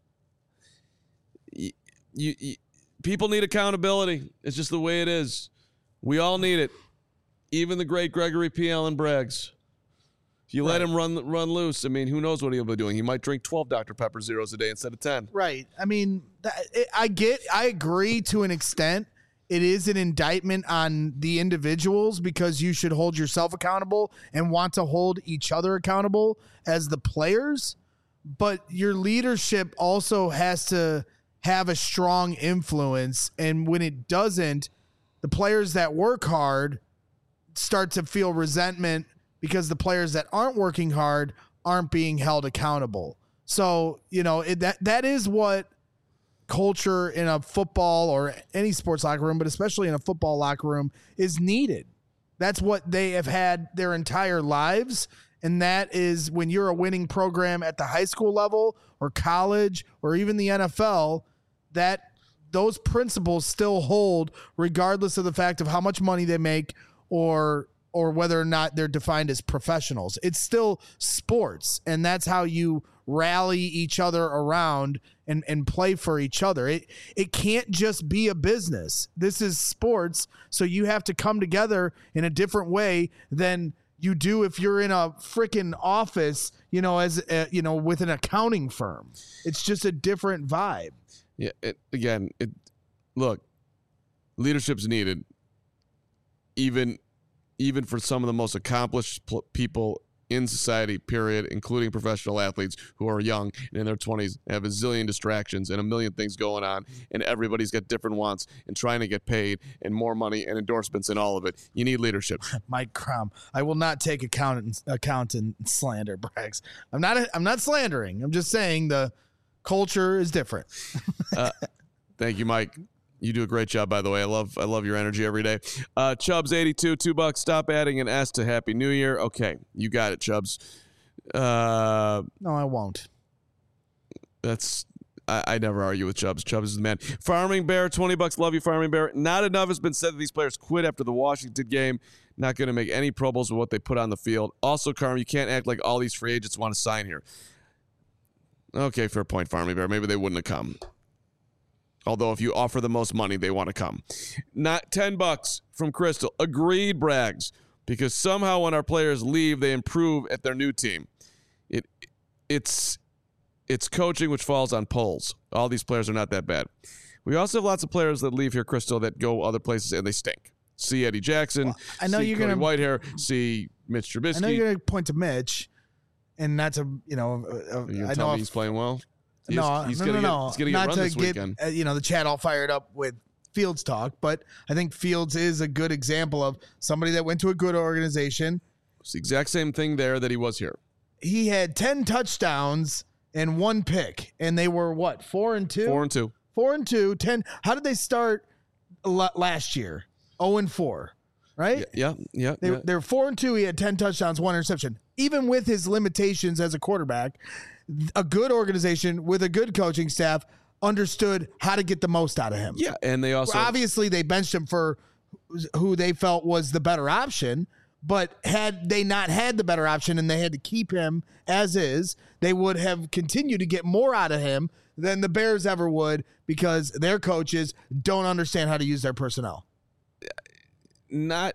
You, you, you, people need accountability. It's just the way it is. We all need it. Even the great Gregory P. Allen Braggs. If you let him run run loose, I mean, who knows what he'll be doing? He might drink twelve Doctor Pepper Zeros a day instead of ten. Right. I mean, that, it, I get, I agree to an extent. It is an indictment on the individuals because you should hold yourself accountable and want to hold each other accountable as the players. But your leadership also has to have a strong influence. And when it doesn't, the players that work hard start to feel resentment because the players that aren't working hard aren't being held accountable. So, you know, it, that that is what culture in a football or any sports locker room, but especially in a football locker room, is needed. That's what they have had their entire lives. And that is when you're a winning program at the high school level or college or even the N F L, that those principles still hold regardless of the fact of how much money they make or or whether or not they're defined as professionals. It's still sports, and that's how you rally each other around and, and play for each other. It it can't just be a business. This is sports, so you have to come together in a different way than you do if you're in a freaking office, you know, as a, you know, with an accounting firm. It's just a different vibe. Yeah, it, again, it look, leadership's needed, even even for some of the most accomplished pl- people in society, period, including professional athletes who are young and in their twenties, have a zillion distractions and a million things going on, and everybody's got different wants and trying to get paid and more money and endorsements and all of it. You need leadership. Mike Crum, I will not take account account and slander Braggs. I'm not I'm not slandering. I'm just saying the culture is different. uh, thank you, Mike. You do a great job, by the way. I love I love your energy every day. Uh, Chubbs eighty-two, two bucks. Stop adding an S to Happy New Year. Okay, you got it, Chubbs. Uh, No, I won't. that's I, I never argue with Chubbs. Chubbs is the man. Farming Bear, twenty bucks. Love you, Farming Bear. Not enough has been said that these players quit after the Washington game. Not going to make any Pro Bowls with what they put on the field. Also, Carm, you can't act like all these free agents want to sign here. Okay, fair point, Farming Bear. Maybe they wouldn't have come. Although if you offer the most money, they want to come. Not ten bucks from Crystal. Agreed, Braggs. Because somehow when our players leave, they improve at their new team. It it's it's coaching which falls on polls. All these players are not that bad. We also have lots of players that leave here, Crystal, that go other places and they stink. See Eddie Jackson. Well, I know see you're Cody gonna Whitehair. See Mitch Trubisky. I know you're going to point to Mitch, and that's a you know. A, Are you I tell know me he's playing well. He no, is, he's no, gonna no, get, no. He's going to get Not run to this get weekend. uh, you know the chat all fired up with Fields talk, but I think Fields is a good example of somebody that went to a good organization. It's the exact same thing there that he was here. he had ten touchdowns and one pick, and they were what, four and two? Four and two. Four and two, ten. How did they start la- last year? Oh and four, right? Yeah, yeah. They, yeah. They're four and two. He had ten touchdowns, one interception. Even with his limitations as a quarterback, a good organization with a good coaching staff understood how to get the most out of him. Yeah, and they also Obviously, they benched him for who they felt was the better option. But had they not had the better option and they had to keep him as is, they would have continued to get more out of him than the Bears ever would because their coaches don't understand how to use their personnel. not.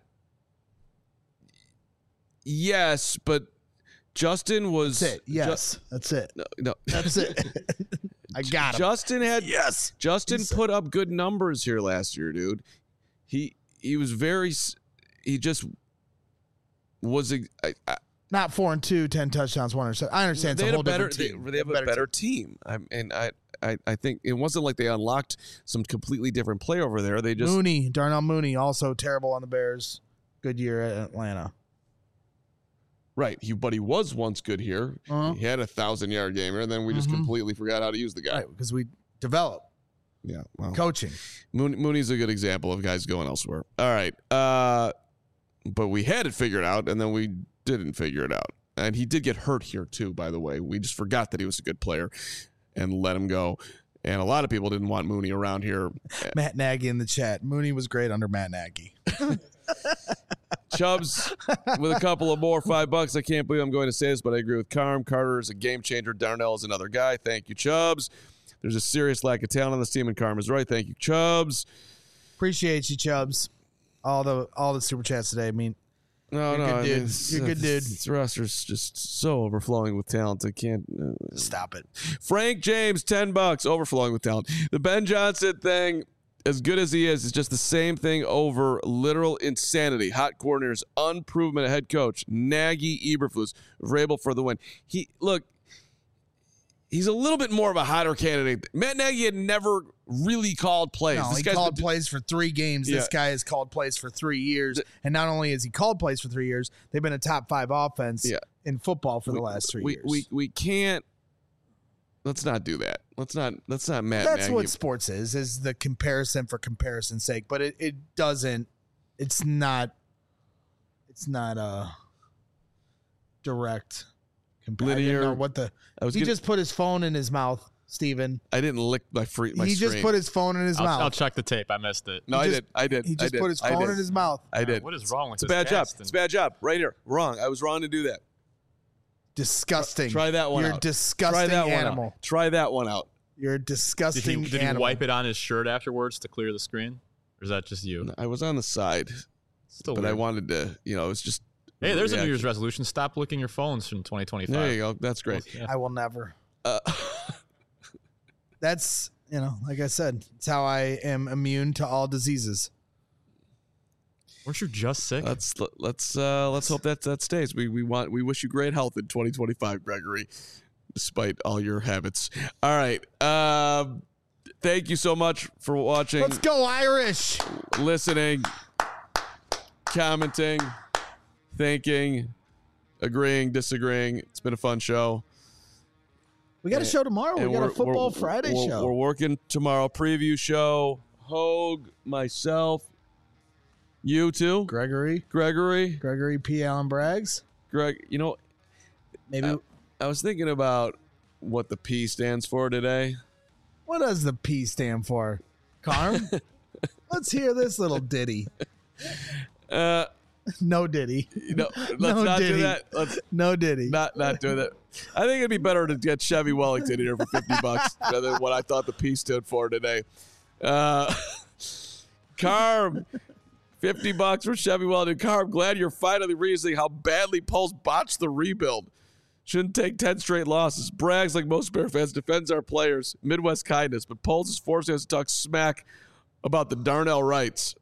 Yes, but Justin was. That's it. Yes, that's it. No, no. That's it. I got him. Justin had. Yes. Justin He's- put up good numbers here last year, dude. He he was very. s- He just was. a- I, I, Not four and two, ten touchdowns, one interception. I understand it's they a had whole a better. different team. They, they have a better team. I, and I, I, I think it wasn't like they unlocked some completely different play over there. They just. Mooney, Darnell Mooney, also terrible on the Bears. Good year at Atlanta. Right, he but he was once good here. Uh-huh. He had a thousand yard gamer, and then we just Mhm. completely forgot how to use the guy. Right, because we develop Yeah, well, coaching. Mooney, Mooney's a good example of guys going elsewhere. All right, uh, but we had it figured out, and then we didn't figure it out. And he did get hurt here too, by the way. We just forgot that he was a good player and let him go. And a lot of people didn't want Mooney around here. Matt Nagy in the chat. Mooney was great under Matt Nagy. Chubbs with a couple of more five bucks. I can't believe I'm going to say this, but I agree with Carm. Carter is a game changer. Darnell is another guy. Thank you, Chubbs. There's a serious lack of talent on this team, and Carm is right. Thank you, Chubbs. Appreciate you, Chubbs. All the all the super chats today. I mean, No, You're no, good I mean, dude. it's- You're good it's- dude. This roster's just so overflowing with talent. I can't. Uh, stop it. Frank James, ten bucks, overflowing with talent. The Ben Johnson thing, as good as he is, is just the same thing over literal insanity. Hot coordinators, unproven head coach, Nagy, Eberflus, Vrabel for the win. He look, he's a little bit more of a hotter candidate. Matt Nagy had never really called plays. No, This he guy's called been- plays for three games. Yeah. This guy has called plays for three years. And not only has he called plays for three years, they've been a top five offense Yeah. in football for we, the last three we, years. We we can't. Let's not do that. Let's not. Let's not Matt That's Nagy. what sports is, is the comparison for comparison's sake. But it, it doesn't, it's not, it's not a direct comparison. Linear- What the, I was he gonna, just put his phone in his mouth, Steven. I didn't lick my free. My He just screen. put his phone in his I'll, mouth. I'll check the tape. I missed it. No, he I just- did. I did. He I just did. put his I phone did. in his mouth. I did. What is wrong with It's a this bad job. cast? It's a bad job. Right here. Wrong. I was wrong to do that. Disgusting. Try that one You're out. a disgusting Try that animal. one out. Try that one out. You're a Did disgusting he, did he animal. wipe it on his shirt afterwards to clear the screen? Or is that just you? I was on the side, Still but I weird. wanted to. You know, it was just. Hey, there's a New reaction. Year's resolution. Stop licking your phones from twenty twenty-five. There you go. That's great. Yeah. I will never. Uh, That's, you know, like I said, it's how I am immune to all diseases. Weren't you just sick? let's let's uh, let's hope that that stays. We we want we wish you great health in twenty twenty-five, Gregory, despite all your habits. All right. Um, thank you so much for watching, Let's go, Irish. listening, commenting, thinking, agreeing, disagreeing. It's been a fun show. We got a show tomorrow. And We got a we're- Football we're- Friday we're- show. We're working tomorrow. Preview show. Hogue, myself, you too, Gregory. Gregory, Gregory P. Allen Braggs. Greg. You know, Maybe. Uh, I was thinking about what the P stands for today. What does the P stand for? Carm? Let's hear this little ditty. Uh, No ditty. no, let's No not Diddy. do that. Let's No ditty. not not do that. I think it'd be better to get Chevy Wellington here for fifty bucks rather than what I thought the P stood for today. Uh, Carm, fifty bucks for Chevy Wellington. Carm, glad you're finally realizing how badly Pulse botched the rebuild. Shouldn't take ten straight losses. Brags like most Bear fans, defends our players. Midwest kindness, but Pulse is forcing us to talk smack about the Darnell Wrights.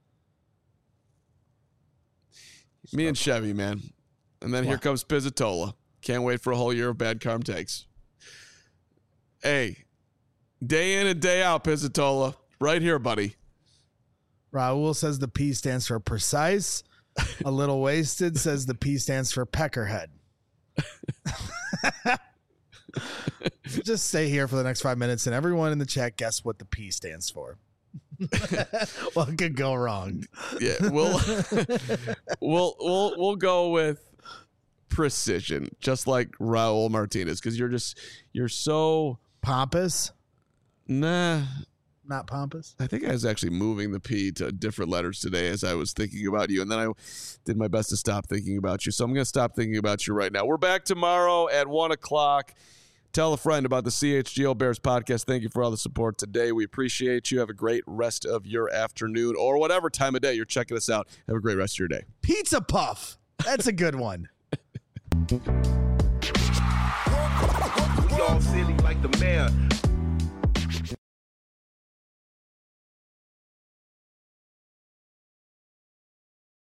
Me and Chevy, man. And then here comes Pizzatola. Can't wait for a whole year of bad Carm takes. Hey, day in and day out, Pizzatola. Right here, buddy. Raul says the P stands for precise. A little wasted says the P stands for peckerhead. Just stay here for the next five minutes, and everyone in the chat guess what the P stands for. What could go wrong? Yeah, we'll we'll we'll we'll go with precision, just like Raul Martinez, because you're just you're so Pompous? nah. Not pompous? I think I was actually moving the P to different letters today as I was thinking about you, and then I did my best to stop thinking about you. So I'm going to stop thinking about you right now. We're back tomorrow at one o'clock. Tell a friend about the C H G O Bears podcast. Thank you for all the support today. We appreciate you. Have a great rest of your afternoon or whatever time of day you're checking us out. Have a great rest of your day. Pizza Puff. That's a good one. We all silly like the mayor.